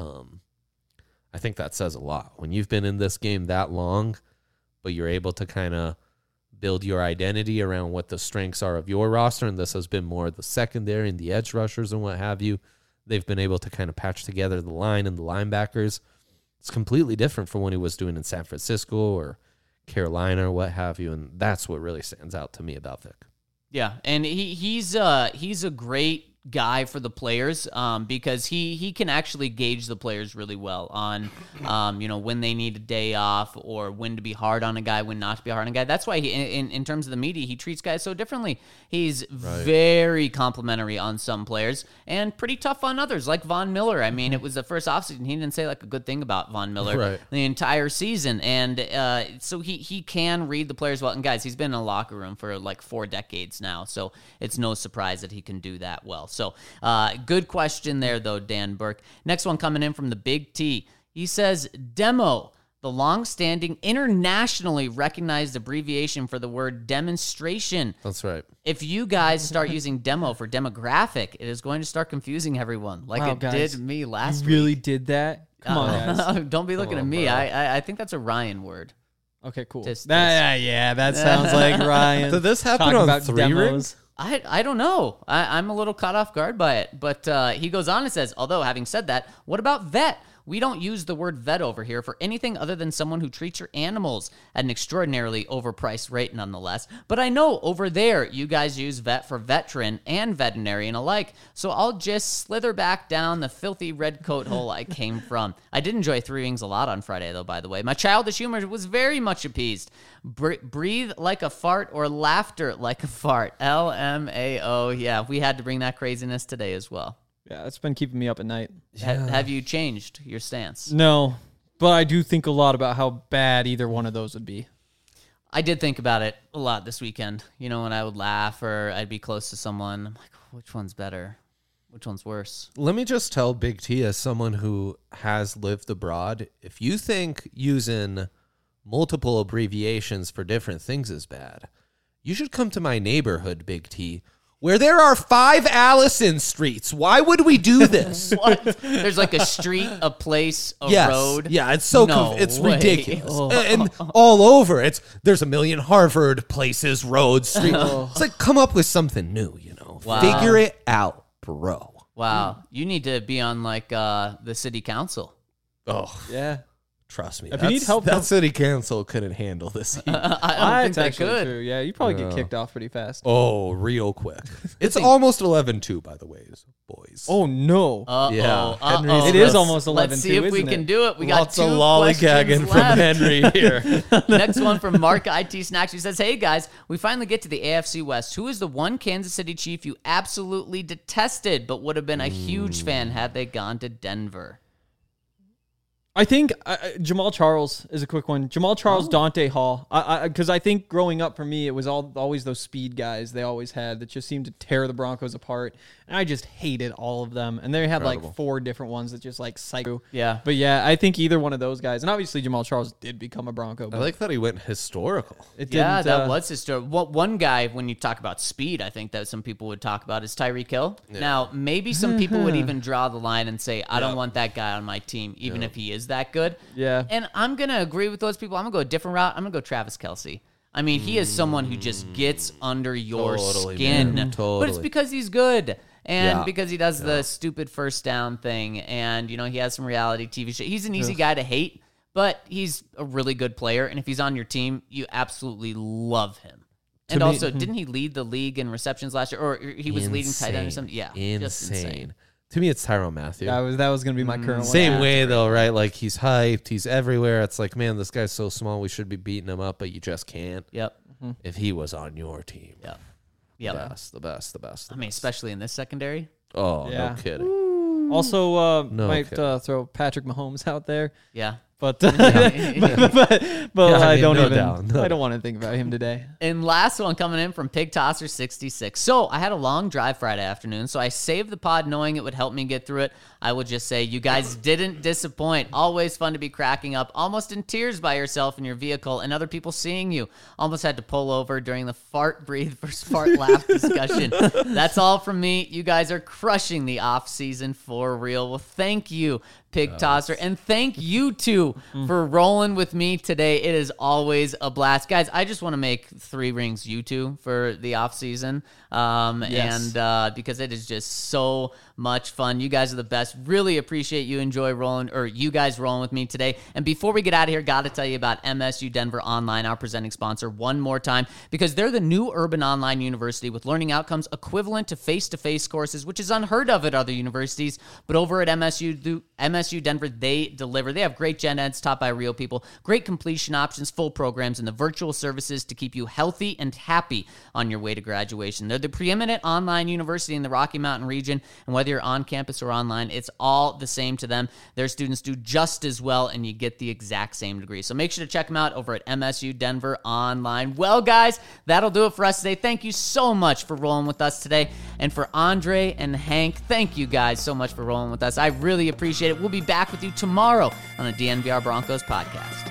I think that says a lot. When you've been in this game that long, but you're able to kind of build your identity around what the strengths are of your roster, and this has been more the secondary and the edge rushers and what have you. They've been able to kind of patch together the line and the linebackers. It's completely different from what he was doing in San Francisco or Carolina or what have you, and that's what really stands out to me about Vic. Yeah, and he's a great guy for the players because he can actually gauge the players really well on when they need a day off or when to be hard on a guy, when not to be hard on a guy. That's why he, in terms of the media, he treats guys so differently. He's very complimentary on some players and pretty tough on others, like Von Miller. I mean, it was the first offseason. He didn't say like a good thing about Von Miller the entire season. And so he can read the players well. And guys, he's been in a locker room for like 4 decades now. So it's no surprise that he can do that well. So good question there, though, Dan Burke. Next one coming in from the Big T. He says, demo, the long-standing internationally recognized abbreviation for the word demonstration. That's right. If you guys start using demo for demographic, it is going to start confusing everyone like it guys, did me last You really week. did that? Come on, guys. Don't be looking at me. I think that's a Ryan word. Okay, cool. Just- that sounds like Ryan. Did this happen talking on about 3 demos. rings? I don't know. I'm a little caught off guard by it. But he goes on and says, although having said that, what about vet? We don't use the word vet over here for anything other than someone who treats your animals at an extraordinarily overpriced rate nonetheless. But I know over there you guys use vet for veteran and veterinarian alike. So I'll just slither back down the filthy red coat hole I came from. I did enjoy 3 Rings a lot on Friday, though, by the way. My childish humor was very much appeased. Breathe like a fart or laughter like a fart. LMAO. Yeah, we had to bring that craziness today as well. Yeah, it's been keeping me up at night. Have you changed your stance? No, but I do think a lot about how bad either one of those would be. I did think about it a lot this weekend. You know, when I would laugh or I'd be close to someone, I'm like, which one's better? Which one's worse? Let me just tell Big T, as someone who has lived abroad, if you think using multiple abbreviations for different things is bad, you should come to my neighborhood, Big T, where there are 5 Allison streets. Why would we do this? What? There's like a street, a place, a Yes. road. Yeah, it's so No it's way. ridiculous. And all over. There's a million Harvard places, roads, streets. It's like, come up with something new, you know. Wow. Figure it out, bro. Wow. You need to be on like the city council. Oh, Yeah. trust me. If you need help, that city council couldn't handle this heat. I don't think That's they actually could. true. Yeah, you probably get kicked off pretty fast. Oh, real quick. It's almost 11-2, by the way, boys. Oh no. Yeah. Henry's Uh-oh. It is almost 11-2, Let's see if we isn't can it? do it. We Lots got of 2 lollygagging questions from left. Henry here. Next one from Mark IT Snacks, who says, "Hey guys, we finally get to the AFC West. Who is the one Kansas City Chief you absolutely detested but would have been a huge fan had they gone to Denver?" I think Jamal Charles is a quick one. Jamal Charles, Dante Hall. Because I think growing up for me, it was always those speed guys they always had that just seemed to tear the Broncos apart. And I just hated all of them. And they had like 4 different ones that just like psycho. Yeah. But yeah, I think either one of those guys. And obviously Jamal Charles did become a Bronco. I But like that he went historical. it Yeah, didn't, that was his story. One guy, when you talk about speed, I think that some people would talk about is Tyreek Hill. Now, maybe some people would even draw the line and say, I don't want that guy on my team, even if he is that good. Yeah. And I'm going to agree with those people. I'm going to go a different route. I'm going to go Travis Kelce. I mean, he is someone who just gets under your Totally, skin. man. But it's Totally. because he's good. And Yeah. because he does the stupid first down thing. And, you know, he has some reality TV show. He's an easy guy to hate, but he's a really good player. And if he's on your team, you absolutely love him. And me- also, didn't he lead the league in receptions last year? Or he was leading tight end or something? Yeah. Just insane. To me, it's Tyrann Mathieu. that was going to be my current one. Same Yeah. way, though, right? Like, he's hyped. He's everywhere. It's like, man, this guy's so small. We should be beating him up, but you just can't. Yep. If he was on your team. Yep. Yep. The best. I mean, especially in this secondary. Oh, Yeah. no kidding. Also, No might kidding. throw Patrick Mahomes out there. Yeah. But Yeah. I mean, don't no even. doubt, no I don't want to think about him today. And last one coming in from Pig Tosser 66. So I had a long drive Friday afternoon, so I saved the pod knowing it would help me get through it. I will just say you guys didn't disappoint. Always fun to be cracking up, almost in tears by yourself in your vehicle and other people seeing you. Almost had to pull over during the fart breathe versus fart laugh discussion. That's all from me. You guys are crushing the off season for real. Well, thank you, Pig Tosser, and thank you two for rolling with me today. It is always a blast, guys. I just want to make 3 rings you two for the off season, Yes. and because it is just so much fun. You guys are the best. Really appreciate you you guys rolling with me today. And before we get out of here, got to tell you about MSU Denver Online, our presenting sponsor, one more time, because they're the new urban online university with learning outcomes equivalent to face-to-face courses, which is unheard of at other universities. But over at MSU Denver, they deliver. They have great gen eds taught by real people, great completion options, full programs, and the virtual services to keep you healthy and happy on your way to graduation. They're the preeminent online university in the Rocky Mountain region, and whether you're on campus or online, it's all the same to them. Their students do just as well, and you get the exact same degree. So make sure to check them out over at MSU Denver Online. Well, guys, that'll do it for us today. Thank you so much for rolling with us today. And for Andre and Hank, thank you guys so much for rolling with us. I really appreciate it. We'll be back with you tomorrow on the DNVR Broncos podcast.